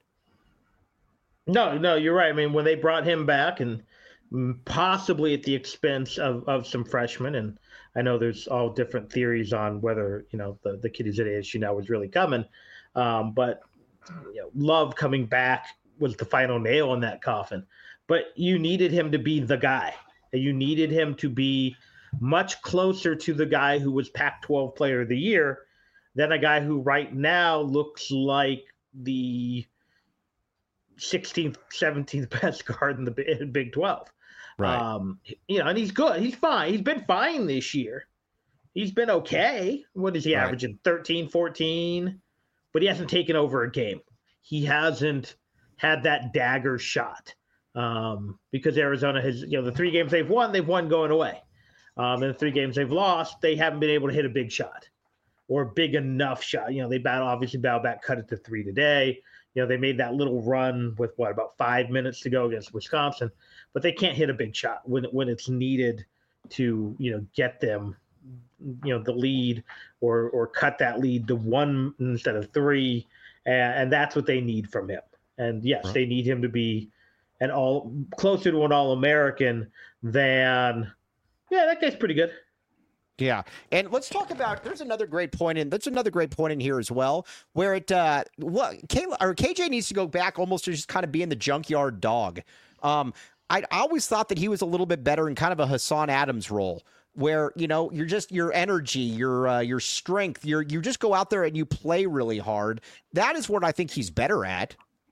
No, no, you're right. I mean, when they brought him back and possibly at the expense of, of some freshmen, and I know there's all different theories on whether, you know, the, the kid who's at A S U now was really coming. Um, but, you know, Love coming back was the final nail in that coffin. But you needed him to be the guy. You needed him to be much closer to the guy who was Pac twelve Player of the Year than a guy who right now looks like the sixteenth, seventeenth best guard in the Big twelve. Right. Um, you know, and he's good. He's fine. He's been fine this year. He's been okay. What is he right. averaging? thirteen, fourteen But he hasn't taken over a game. He hasn't had that dagger shot. um, because Arizona has, you know, the three games they've won, they've won going away. Um, and the three games they've lost, they haven't been able to hit a big shot or a big enough shot. You know, they battle, obviously battle back, cut it to three today. You know, they made that little run with what, about five minutes to go against Wisconsin, but they can't hit a big shot when when it's needed to, you know, get them, you know, the lead or or cut that lead to one instead of three, and, and that's what they need from him. And yes, right. They need him to be an all closer to an All-American than, yeah, that guy's pretty good. Yeah, and let's talk about. There's another great point in. That's another great point in here as well, where it uh, what Kayla or K J needs to go back almost to just kind of being the junkyard dog. Um, I always thought that he was a little bit better in kind of a Hassan Adams role, where you know you're just your energy, your uh, your strength, your you just go out there and you play really hard. That is what I think he's better at.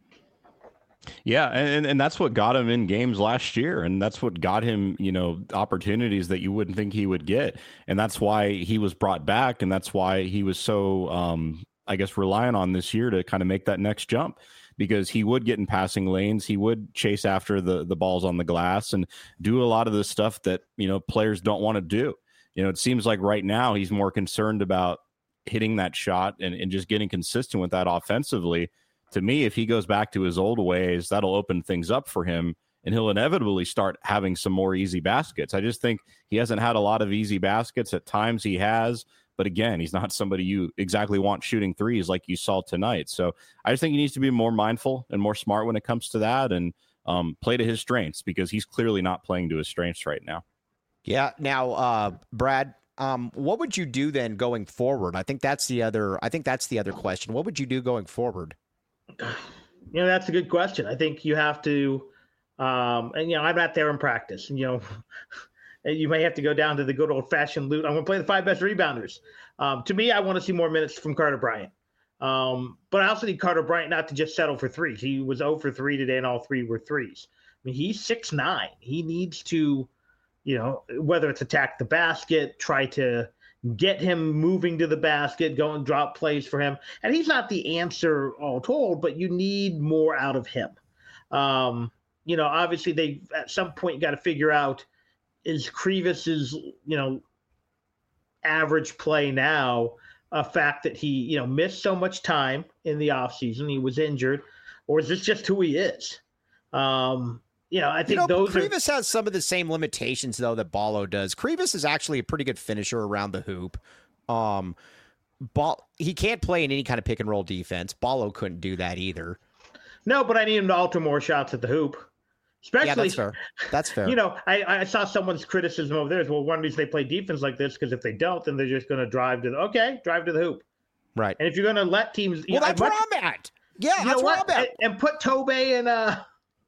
Yeah, and and that's what got him in games last year, and that's what got him, you know, opportunities that you wouldn't think he would get, and that's why he was brought back, and that's why he was so, um, I guess, relying on this year to kind of make that next jump, because he would get in passing lanes, he would chase after the the balls on the glass, and do a lot of the stuff that, you know, players don't want to do. You know, it seems like right now he's more concerned about hitting that shot and, and just getting consistent with that offensively. To me, if he goes back to his old ways, that'll open things up for him, and he'll inevitably start having some more easy baskets. I just think he hasn't had a lot of easy baskets. At times he has, but again, he's not somebody you exactly want shooting threes like you saw tonight. So I just think he needs to be more mindful and more smart when it comes to that, and um, play to his strengths, because he's clearly not playing to his strengths right now. Yeah. Now, uh, Brad, um, what would you do then going forward? I think that's the other. I think that's the other question. What would you do going forward? You know, that's a good question. I think you have to, um, and, you know, I'm not there in practice. You know, you may have to go down to the good old fashioned loot. I'm going to play the five best rebounders. Um, to me, I want to see more minutes from Carter Bryant. Um, but I also need Carter Bryant not to just settle for threes. He was zero for three today, and all three were threes. I mean, he's six nine. He needs to, you know, whether it's attack the basket, try to get him moving to the basket, go and drop plays for him. And he's not the answer all told, but you need more out of him. Um, you know, obviously they at some point got to figure out, is Krivic's, you know, average play now a fact that he, you know, missed so much time in the offseason, he was injured, or is this just who he is? Um, You know, I think you know, those Krivis are... has some of the same limitations, though, that Ballo does. Krivis is actually a pretty good finisher around the hoop. Um, Ball, he can't play in any kind of pick and roll defense. Ballo couldn't do that either. No, but I need him to alter more shots at the hoop. Especially, yeah, that's fair. That's fair. You know, I, I saw someone's criticism over there is, well, one reason they play defense like this, because if they don't, then they're just going to drive to the, okay, drive to the hoop. Right. And if you're going to let teams... Well, that's much, where I'm at. Yeah, that's where I'm at. And, and put Tobey and... uh.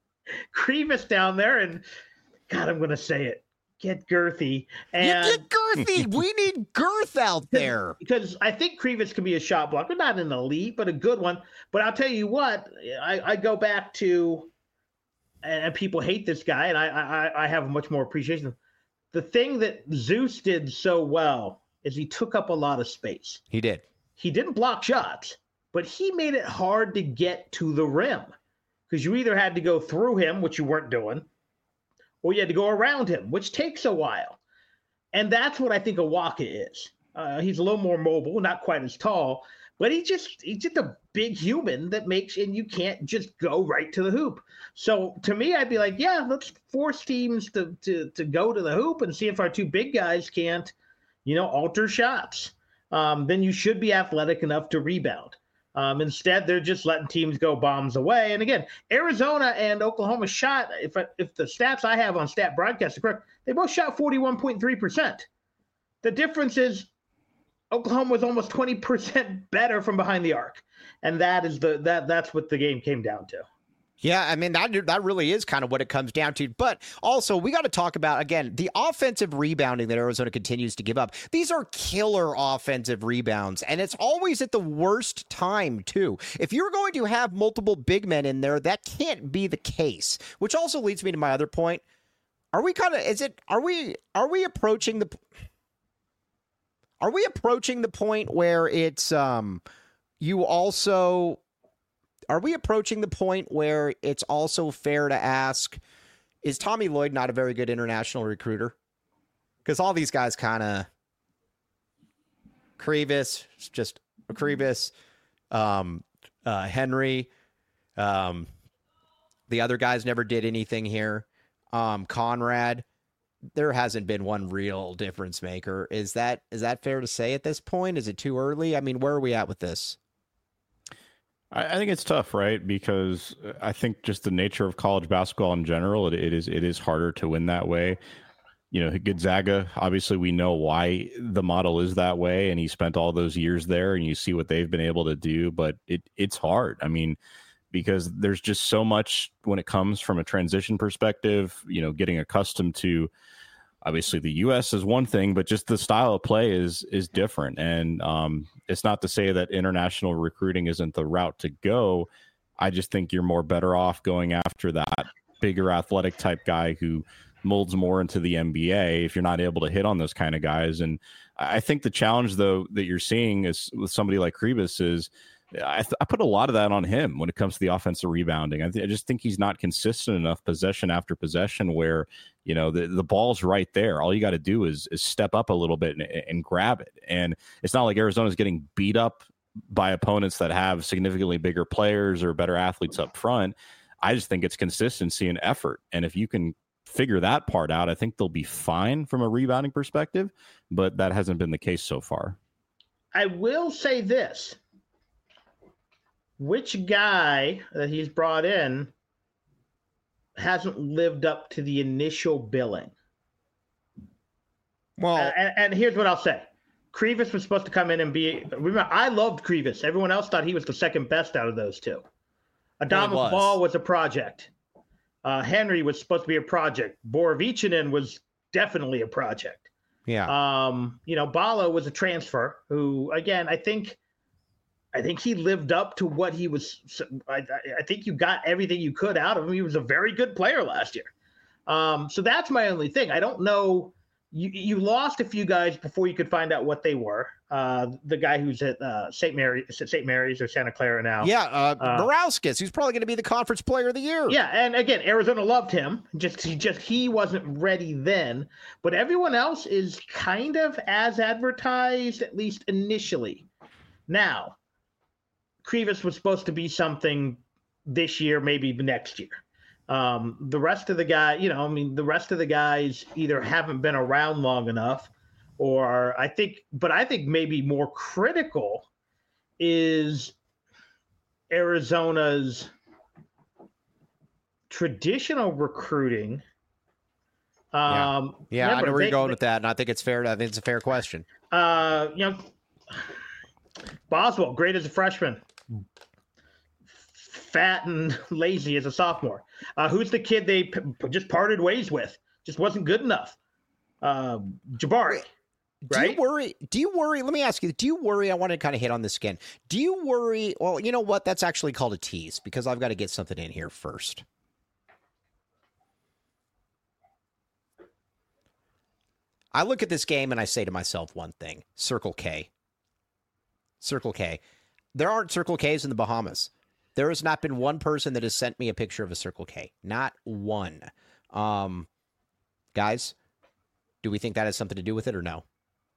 Krivis down there, and God, I'm going to say it. Get girthy. And you get girthy. We need girth out there. Because I think Krivis can be a shot blocker, not an elite, but a good one. But I'll tell you what, I, I go back to, and people hate this guy, and I, I, I have a much more appreciation. The thing that Zeus did so well is he took up a lot of space. He did. He didn't block shots, but he made it hard to get to the rim. Because you either had to go through him, which you weren't doing, or you had to go around him, which takes a while. And that's what I think Awaka is. Uh, he's a little more mobile, not quite as tall, but he just he's just a big human that makes, and you can't just go right to the hoop. So to me, I'd be like, yeah, let's force teams to to to go to the hoop and see if our two big guys can't, you know, alter shots. Um, then you should be athletic enough to rebound. Um, instead, they're just letting teams go bombs away. And again, Arizona and Oklahoma shot, if if the stats I have on Stat Broadcast are correct, they both shot forty-one point three percent. The difference is Oklahoma was almost twenty percent better from behind the arc. And that is the that that's what the game came down to. Yeah, I mean, that that really is kind of what it comes down to. But also, we got to talk about, again, the offensive rebounding that Arizona continues to give up. These are killer offensive rebounds, and it's always at the worst time, too. If you're going to have multiple big men in there, that can't be the case, which also leads me to my other point. Are we kind of, is it, are we, are we approaching the, are we approaching the point where it's, um, you also... are we approaching the point where it's also fair to ask, is Tommy Lloyd not a very good international recruiter? Because all these guys kind of Krivas, just Krivas, um, uh, Henry, um, the other guys never did anything here. Um, Conrad, there hasn't been one real difference maker. Is that is that fair to say at this point? Is it too early? I mean, where are we at with this? I, I think it's tough, right? Because I think just the nature of college basketball in general, it, it is it is harder to win that way. You know, Gonzaga, obviously we know why the model is that way, and he spent all those years there, and you see what they've been able to do, but it it's hard. I mean, because there's just so much when it comes from a transition perspective, you know, getting accustomed to, obviously the U S is one thing, but just the style of play is is different. And um, it's not to say that international recruiting isn't the route to go. I just think you're more better off going after that bigger athletic type guy who molds more into the N B A if you're not able to hit on those kind of guys. And I think the challenge, though, that you're seeing is with somebody like Krivas is I, th- I put a lot of that on him when it comes to the offensive rebounding. I, th- I just think he's not consistent enough possession after possession where, you know, the, the ball's right there. All you got to do is is step up a little bit and, and grab it. And it's not like Arizona's getting beat up by opponents that have significantly bigger players or better athletes up front. I just think it's consistency and effort. And if you can figure that part out, I think they'll be fine from a rebounding perspective, but that hasn't been the case so far. I will say this. Which guy that he's brought in hasn't lived up to the initial billing? Well, uh, and, and here's what I'll say. Krivas was supposed to come in and be – remember, I loved Krivas. Everyone else thought he was the second best out of those two. Adamas was. Ball was a project. Uh, Henry was supposed to be a project. Borovichinen was definitely a project. yeah. Um, you know, Bala was a transfer who, again, I think – I think he lived up to what he was. I, I think you got everything you could out of him. He was a very good player last year. Um, so that's my only thing. I don't know. You, you lost a few guys before you could find out what they were. Uh, the guy who's at uh, Saint Mary, Saint Mary's or Santa Clara now. Yeah, uh, uh, Morauskas, who's probably going to be the conference player of the year. Yeah, and again, Arizona loved him. Just he just he wasn't ready then. But everyone else is kind of as advertised, at least initially. Now, Krivas was supposed to be something this year, maybe next year. Um, the rest of the guy, you know, I mean, the rest of the guys either haven't been around long enough, or I think, but I think maybe more critical is Arizona's traditional recruiting. Um, yeah, yeah remember, I know where they, you're going they, with that, and I think it's fair. I think it's a fair question. Uh, you know, Boswell, great as a freshman. Fat and lazy as a sophomore. Uh, who's the kid they p- just parted ways with? Just wasn't good enough. Uh, Jabari, do right? you worry? Do you worry? Let me ask you. Do you worry? I want to kind of hit on this again. Do you worry? Well, you know what? That's actually called a tease because I've got to get something in here first. I look at this game and I say to myself one thing: Circle K. Circle K. There aren't Circle Ks in the Bahamas. There has not been one person that has sent me a picture of a Circle K. Not one. Um, guys, do we think that has something to do with it or no?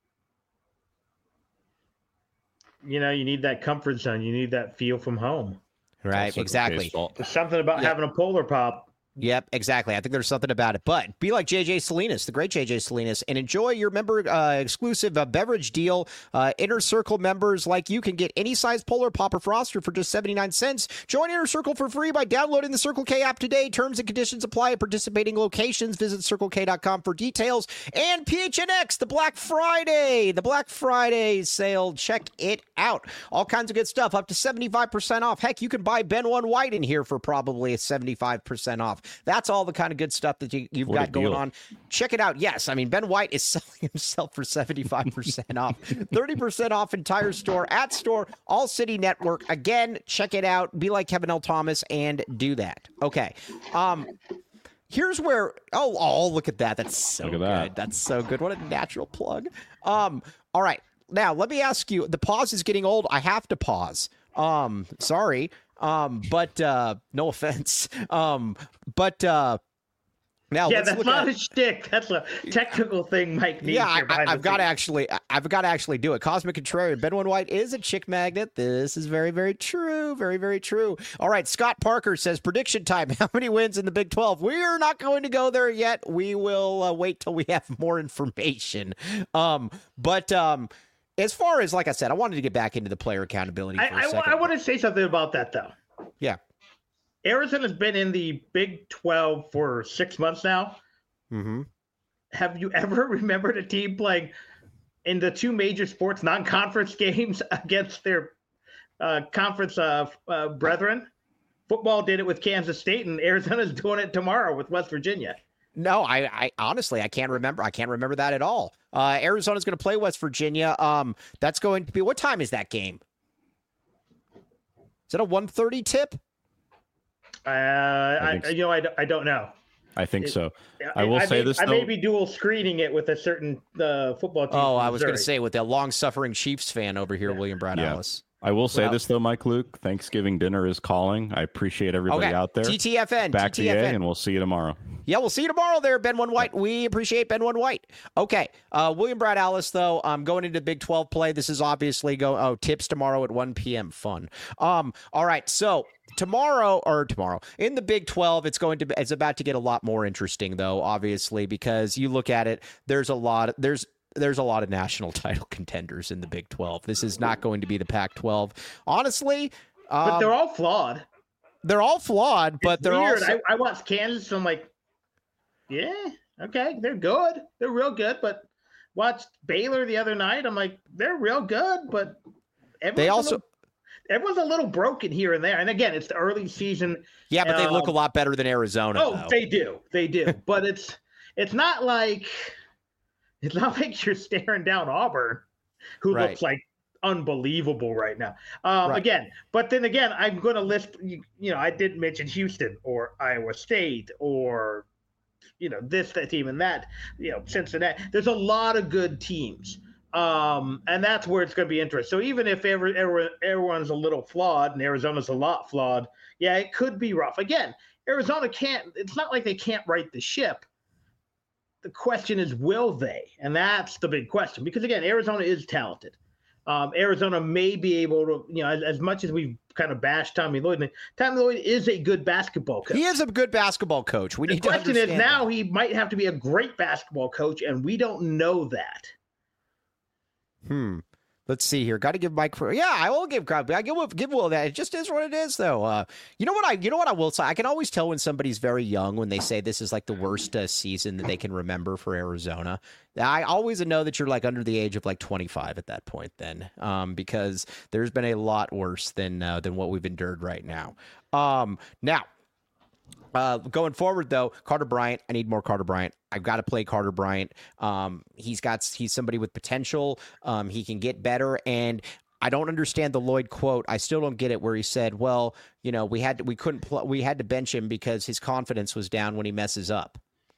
You know, you need that comfort zone. You need that feel from home. Right, exactly. There's something about yeah. having a Polar Pop. Yep, exactly. I think there's something about it. But be like J J Salinas, the great J J Salinas, and enjoy your member uh, exclusive uh, beverage deal. Uh, Inner Circle members like you can get any size Polar Pop or Froster for just seventy-nine cents. Join Inner Circle for free by downloading the Circle K app today. Terms and conditions apply at participating locations. Visit circle k dot com for details. And P H N X, the Black Friday, the Black Friday sale. Check it out. All kinds of good stuff, up to seventy-five percent off. Heck, you can buy Ben One White in here for probably a seventy-five percent off. That's all the kind of good stuff that you, you've What got going deal. on. Check it out. Yes, I mean, Ben White is selling himself for seventy-five percent off. thirty percent off entire store, at store, All City Network. Again, check it out. Be like Kevin L. Thomas and do that. Okay. Um, here's where, oh, oh, look at that. That's so Look at good. that. That's so good. What a natural plug. Um, all right. Now, let me ask you, the pause is getting old. I have to pause. Um, sorry. Um, but uh, no offense. Um, but uh, now yeah, let's that's look not at, a shtick. That's a technical thing Mike needs. Yeah, I, here behind I, I've the got to scenes. actually, I've got to actually do it. Cosmic Contrarian, Ben One White is a chick magnet. This is very, very true. Very, very true. All right, Scott Parker says prediction time. How many wins in the Big twelve? We are not going to go there yet. We will uh, wait till we have more information. Um, but um, as far as, like I said, I wanted to get back into the player accountability for a I, I, second. I want to say something about that though. Yeah. Arizona's been in the Big twelve for six months now. Mm-hmm. Have you ever remembered a team playing in the two major sports non-conference games against their uh, conference uh, uh, brethren? Football did it with Kansas State, and Arizona's doing it tomorrow with West Virginia. No, I, I honestly I can't remember. I can't remember that at all. Uh, Arizona's going to play West Virginia. Um, that's going to be, what time is that game? Is it a one thirty tip? Uh, I, so. you know, I, I don't know. I think It- so. I will I say may, this, I may though. be dual screening it with a certain uh, football team. Oh, from I was going to Missouri. say with the long-suffering Chiefs fan over here, Yeah. William Brad Yeah. Alice. I will say Well- this, though, Mike Luke. Thanksgiving dinner is calling. I appreciate everybody Okay, out there. T T F N, Back to T T F N. A, and we'll see you tomorrow. Yeah, we'll see you tomorrow there, Ben One White. We appreciate Ben One White. Okay, uh, William Brad Alice, though, um, going into Big twelve play. This is obviously go. Oh, tips tomorrow at one p.m. Fun. Um, all right, so tomorrow or tomorrow in the Big twelve, it's going to be, it's about to get a lot more interesting, though, obviously, because you look at it. There's a lot. There's There's a lot of national title contenders in the Big twelve. This is not going to be the Pac twelve. Honestly, um, But they're all flawed. they're all flawed, but It's they're weird. also I, I watched Kansas, and I'm like, yeah, okay, they're good. They're real good. But watched Baylor the other night. I'm like, they're real good, but everyone's They a also- little, everyone's a little broken here and there. And again, it's the early season. yeah, but they look a um, lot better than Arizona. Oh, though. they do, they do. But it's it's not like it's not like you're staring down Auburn, who Right. looks like unbelievable right now. Um, Right. Again, but then again, I'm going to list. You, you know, I didn't mention Houston or Iowa State or you know this that team and that. You know, Cincinnati. There's a lot of good teams. Um, and that's where it's going to be interesting. So even if every, every, everyone's a little flawed and Arizona's a lot flawed, yeah, it could be rough. Again, Arizona can't, it's not like they can't right the ship. The question is, will they? And that's the big question. Because again, Arizona is talented. Um, Arizona may be able to, you know, as, as much as we've kind of bashed Tommy Lloyd, and Tommy Lloyd is a good basketball coach. He is a good basketball coach. We The need question to is understand now that. he might have to be a great basketball coach, and we don't know that. Hmm. Let's see here. Got to give Mike. Yeah, I will give. I give give Will that. It just is what it is, though. Uh, you know what I? You know what I will say. I can always tell when somebody's very young when they say this is like the worst uh, season that they can remember for Arizona. I always know that you're like under the age of like twenty-five at that point, then, um, because there's been a lot worse than uh, than what we've endured right now. Um, now. Uh, going forward, though, Carter Bryant, I need more Carter Bryant. I've got to play Carter Bryant. Um, he's got he's somebody with potential. Um, he can get better, and I don't understand the Lloyd quote. I still don't get it where he said, "Well, you know, we had to, we couldn't pl- we had to bench him because his confidence was down when he messes up."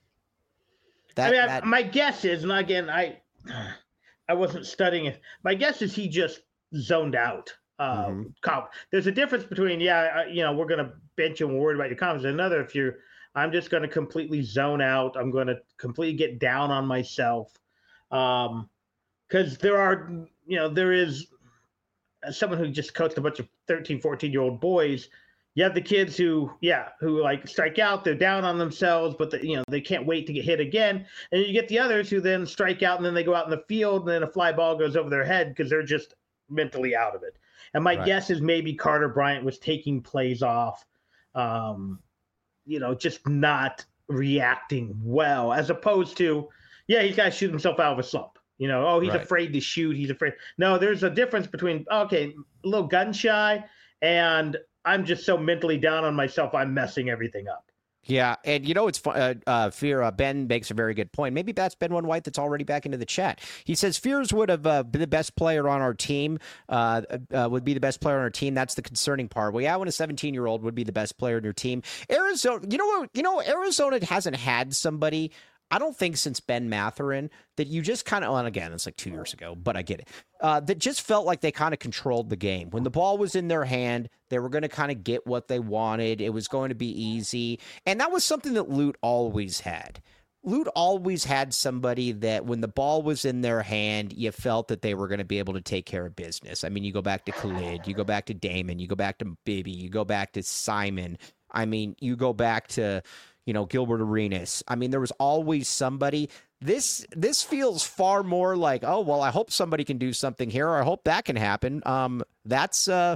That, I mean, I- that my guess is, and again, I I wasn't studying it. My guess is he just zoned out. Uh, Mhm. comp. There's a difference between, yeah, I, you know, we're going to bench you and we're worried about your confidence. Another, if you're, I'm just going to completely zone out. I'm going to completely get down on myself. Um, because there are, you know, there is as someone who just coached a bunch of thirteen, fourteen year old boys. You have the kids who, yeah, who like strike out, they're down on themselves, but the, you know, they can't wait to get hit again. And you get the others who then strike out and then they go out in the field and then a fly ball goes over their head because they're just mentally out of it. And my Right. guess is maybe Carter Bryant was taking plays off, um, you know, just not reacting well, as opposed to, yeah, he's got to shoot himself out of a slump. You know, oh, he's Right. afraid to shoot. He's afraid. No, there's a difference between, okay, a little gun shy and I'm just so mentally down on myself, I'm messing everything up. Yeah, and you know it's fun. Uh, uh, Fear uh, Ben makes a very good point. Maybe that's Ben One White that's already back into the chat. He says Fears would have uh, been the best player on our team. Uh, uh, would be the best player on our team. That's the concerning part. Well, yeah, when a seventeen-year-old would be the best player in your team. Arizona, you know what? You know Arizona hasn't had somebody. I don't think since Ben Mathurin that you just kind of, and again, it's like two years ago, but I get it, uh, that just felt like they kind of controlled the game. When the ball was in their hand, they were going to kind of get what they wanted. It was going to be easy. And that was something that Lute always had. Lute always had somebody that when the ball was in their hand, you felt that they were going to be able to take care of business. I mean, you go back to Khalid, you go back to Damon, you go back to Bibby, you go back to Simon. I mean, you go back to, you know, Gilbert Arenas. I mean, there was always somebody. This this feels far more like, oh, well, I hope somebody can do something here, or I hope that can happen. Um, that's, uh,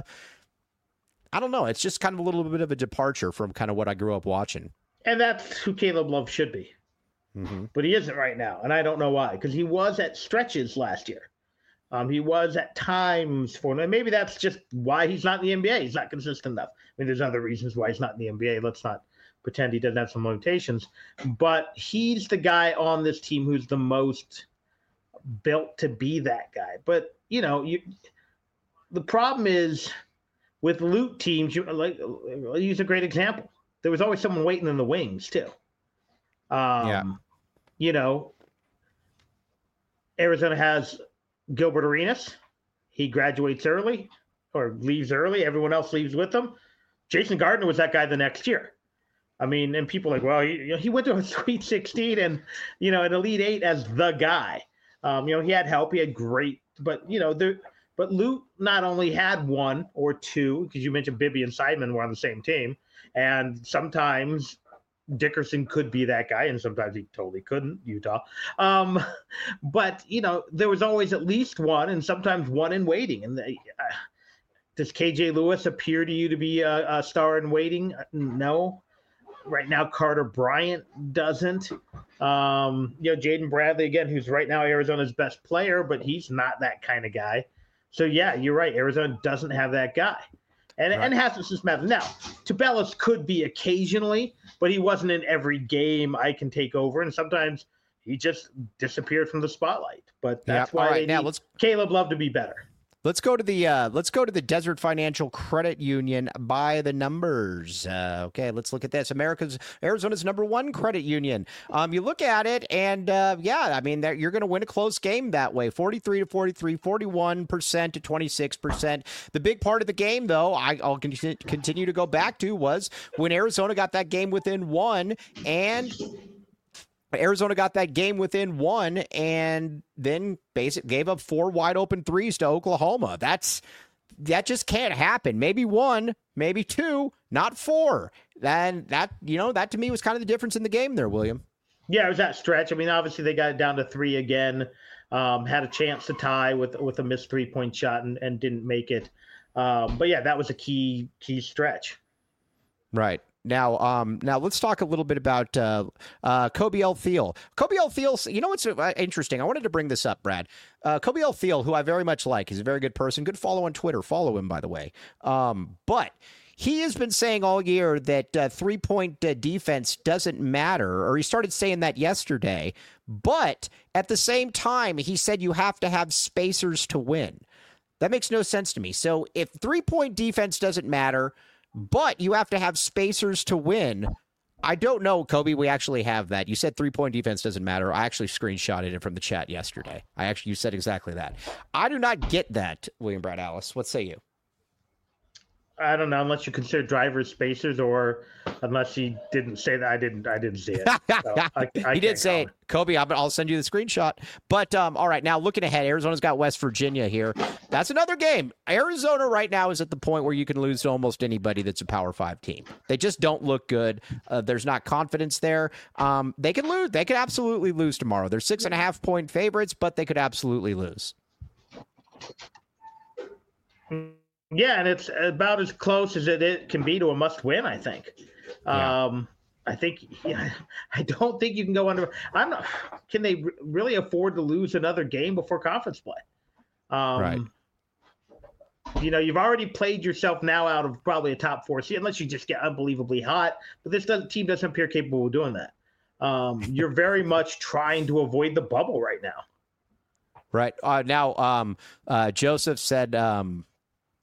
I don't know. It's just kind of a little bit of a departure from kind of what I grew up watching. And that's who Caleb Love should be. Mm-hmm. But he isn't right now, and I don't know why, because he was at stretches last year. Um, he was at times for, and maybe that's just why he's not in the N B A. He's not consistent enough. I mean, there's other reasons why he's not in the N B A. Let's not pretend he doesn't have some limitations. But he's the guy on this team who's the most built to be that guy. But, you know, you, the problem is with Lute teams, you, like, I'll use a great example. There was always someone waiting in the wings, too. Um, yeah. You know, Arizona has Gilbert Arenas. He graduates early or leaves early. Everyone else leaves with him. Jason Gardner was that guy the next year. I mean, and people are like, well, he, you know, he went to a Sweet sixteen and, you know, an Elite Eight as the guy. Um, you know, he had help. He had great, but, you know, there, but Lute not only had one or two, because you mentioned Bibby and Simon were on the same team, and sometimes Dickerson could be that guy, and sometimes he totally couldn't, Utah. Um, but, you know, there was always at least one, and sometimes one in waiting. And they, uh, does K J Lewis appear to you to be a, a star in waiting? No. Right now, Carter Bryant doesn't. Um, you know, Jaden Bradley, again, who's right now Arizona's best player, but he's not that kind of guy. So, yeah, you're right. Arizona doesn't have that guy. And, right. and Hassas is matter. Now, Tubelis could be occasionally, but he wasn't in every game I can take over. And sometimes he just disappeared from the spotlight. But that's yep. why right, they now need let's, Caleb Love to be better. Let's go to the uh, let's go to the Desert Financial Credit Union by the numbers. Uh, okay, let's look at this. America's Arizona's number one credit union. Um, you look at it, and uh, yeah, I mean, you're going to win a close game that way. forty-three to forty-three, forty-one percent to twenty-six percent. The big part of the game, though, I, I'll con- continue to go back to was when Arizona got that game within one, and Arizona got that game within one and then basically gave up four wide open threes to Oklahoma. That's that just can't happen. Maybe one, maybe two, not four. Then that, you know, that to me was kind of the difference in the game there, William. Yeah, it was that stretch. I mean, obviously they got it down to three again, um, had a chance to tie with with a missed three-point shot and, and didn't make it. Um, but yeah, that was a key key stretch. Right. Now, um, now let's talk a little bit about uh, uh, Kobe L. Thiel. Kobe L. Thiel, you know what's uh, interesting? I wanted to bring this up, Brad. Uh, Kobe L. Thiel, who I very much like, he's a very good person. Good follow on Twitter. Follow him, by the way. Um, but he has been saying all year that uh, three-point uh, defense doesn't matter, or he started saying that yesterday. But at the same time, he said you have to have spacers to win. That makes no sense to me. So if three-point defense doesn't matter, but you have to have spacers to win, I don't know, Kobe, we actually have that. You said three-point defense doesn't matter. I actually screenshotted it from the chat yesterday. I actually, you said exactly that. I do not get that, William Brad Alice. What say you? I don't know, unless you consider drivers spacers, or unless he didn't say that. I didn't. I didn't see it. So I, I he did say it, Kobe. I'll, I'll send you the screenshot. But um, all right, now looking ahead, Arizona's got West Virginia here. That's another game. Arizona right now is at the point where you can lose to almost anybody that's a Power Five team. They just don't look good. Uh, there's not confidence there. Um, they can lose. They could absolutely lose tomorrow. They're six and a half point favorites, but they could absolutely lose. Yeah, and it's about as close as it, it can be to a must-win, I think. Yeah. Um, I think yeah, I don't think you can go under. I'm not. Can they r- really afford to lose another game before conference play? Um, right. You know, you've already played yourself now out of probably a top four seed, unless you just get unbelievably hot. But this doesn't, team doesn't appear capable of doing that. Um, you're very much trying to avoid the bubble right now. Right. Uh, now, um, uh, Joseph said. Um,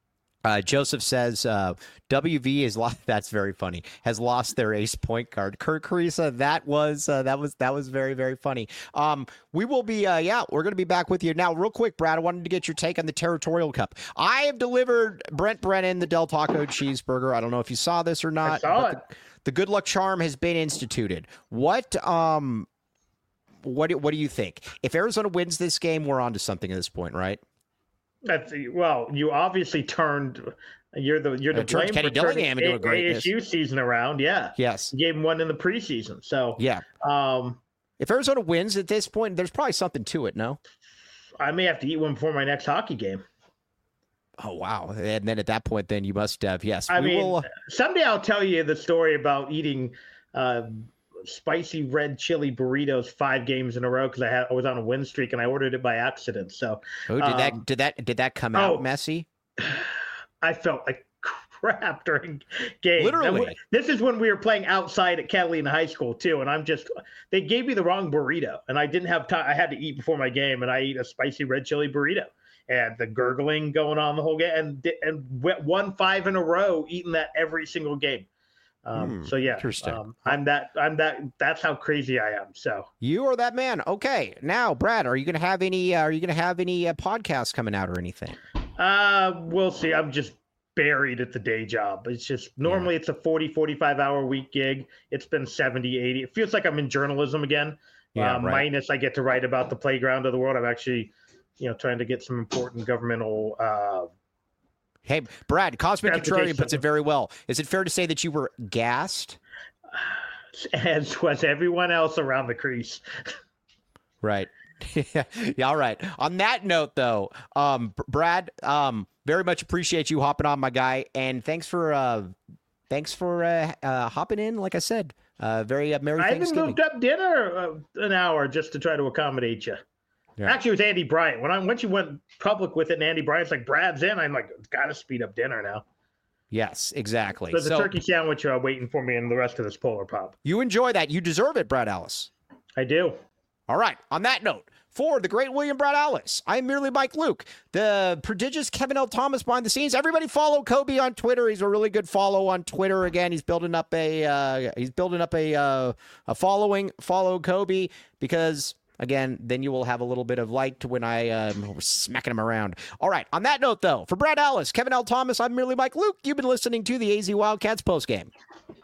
Uh, Joseph says uh, W V is lost. That's very funny. Has lost their ace point guard. Kurt Carissa. That was uh, that was that was very very funny. Um, we will be uh, yeah, we're gonna be back with you now. Real quick, Brad. I wanted to get your take on the Territorial Cup. I have delivered Brent Brennan the Del Taco cheeseburger. I don't know if you saw this or not. I saw it. The, the good luck charm has been instituted. What um, what what do you think? If Arizona wins this game, we're on to something at this point, right? That's well, you obviously turned. You're the you're the Uh, turned blame Kenny for turning Dillingham into a A- greatness. A S U season around. Yeah. Yes. You gave him one in the preseason. So Yeah. um, If Arizona wins at this point, there's probably something to it. No. I may have to eat one before my next hockey game. Oh wow! And then at that point, then you must have yes. I we mean, will, someday I'll tell you the story about eating uh, spicy red chili burritos five games in a row because I had I was on a win streak and I ordered it by accident. So oh, did um, that did that did that come oh, out messy? I felt like crap during games. Literally. And this is when we were playing outside at Catalina High School too, and I'm just they gave me the wrong burrito, and I didn't have time. I had to eat before my game, and I eat a spicy red chili burrito, and the gurgling going on the whole game, and and won five in a row, eating that every single game. Um, Hmm, so yeah, interesting. um, I'm that I'm that that's how crazy I am. So You are that man. Okay, now Brad, are you going to have any? Uh, are you going to have any uh, podcasts coming out or anything? uh, we'll see. I'm just buried at the day job. It's just normally yeah. it's a forty, forty-five hour week gig. It's been seventy, eighty. It feels like I'm in journalism again. Yeah, um, right. Minus I get to write about the playground of the world. I'm actually, you know, trying to get some important governmental. Uh, Hey, Brad, Cosmic Contrarian puts it Application. very well. Is it fair to say that you were gassed? as was everyone else around the crease. Right. yeah. All right. On that note, though, um, Br- Brad, um, very much appreciate you hopping on, my guy, and thanks for uh, thanks for uh, uh, hopping in. Like I said, uh, very uh, merry I even Thanksgiving. moved up dinner uh, an hour just to try to accommodate you. Yeah. Actually, it was Andy Bryant. When I once you went public with it, and Andy Bryant's like, "Brad's in," I'm like, "Got to speed up dinner now." Yes, exactly. There's so a turkey sandwich uh, waiting for me and the rest of this Polar Pop. you enjoy that. You deserve it, Brad Ellis. I do. All right. On that note, for the great William Brad Ellis, I'm merely Mike Luke, the prodigious Kevin L. Thomas behind the scenes. Everybody follow Kobe on Twitter. He's a really good follow on Twitter. Again, he's building up a uh, he's building up a uh, a following. Follow Kobe because. Again, then you will have a little bit of light to when I um, smacking him around. All right. On that note, though, for Brad Ellis, Kevin L. Thomas, I'm merely Mike Luke. You've been listening to the A Z Wildcats postgame.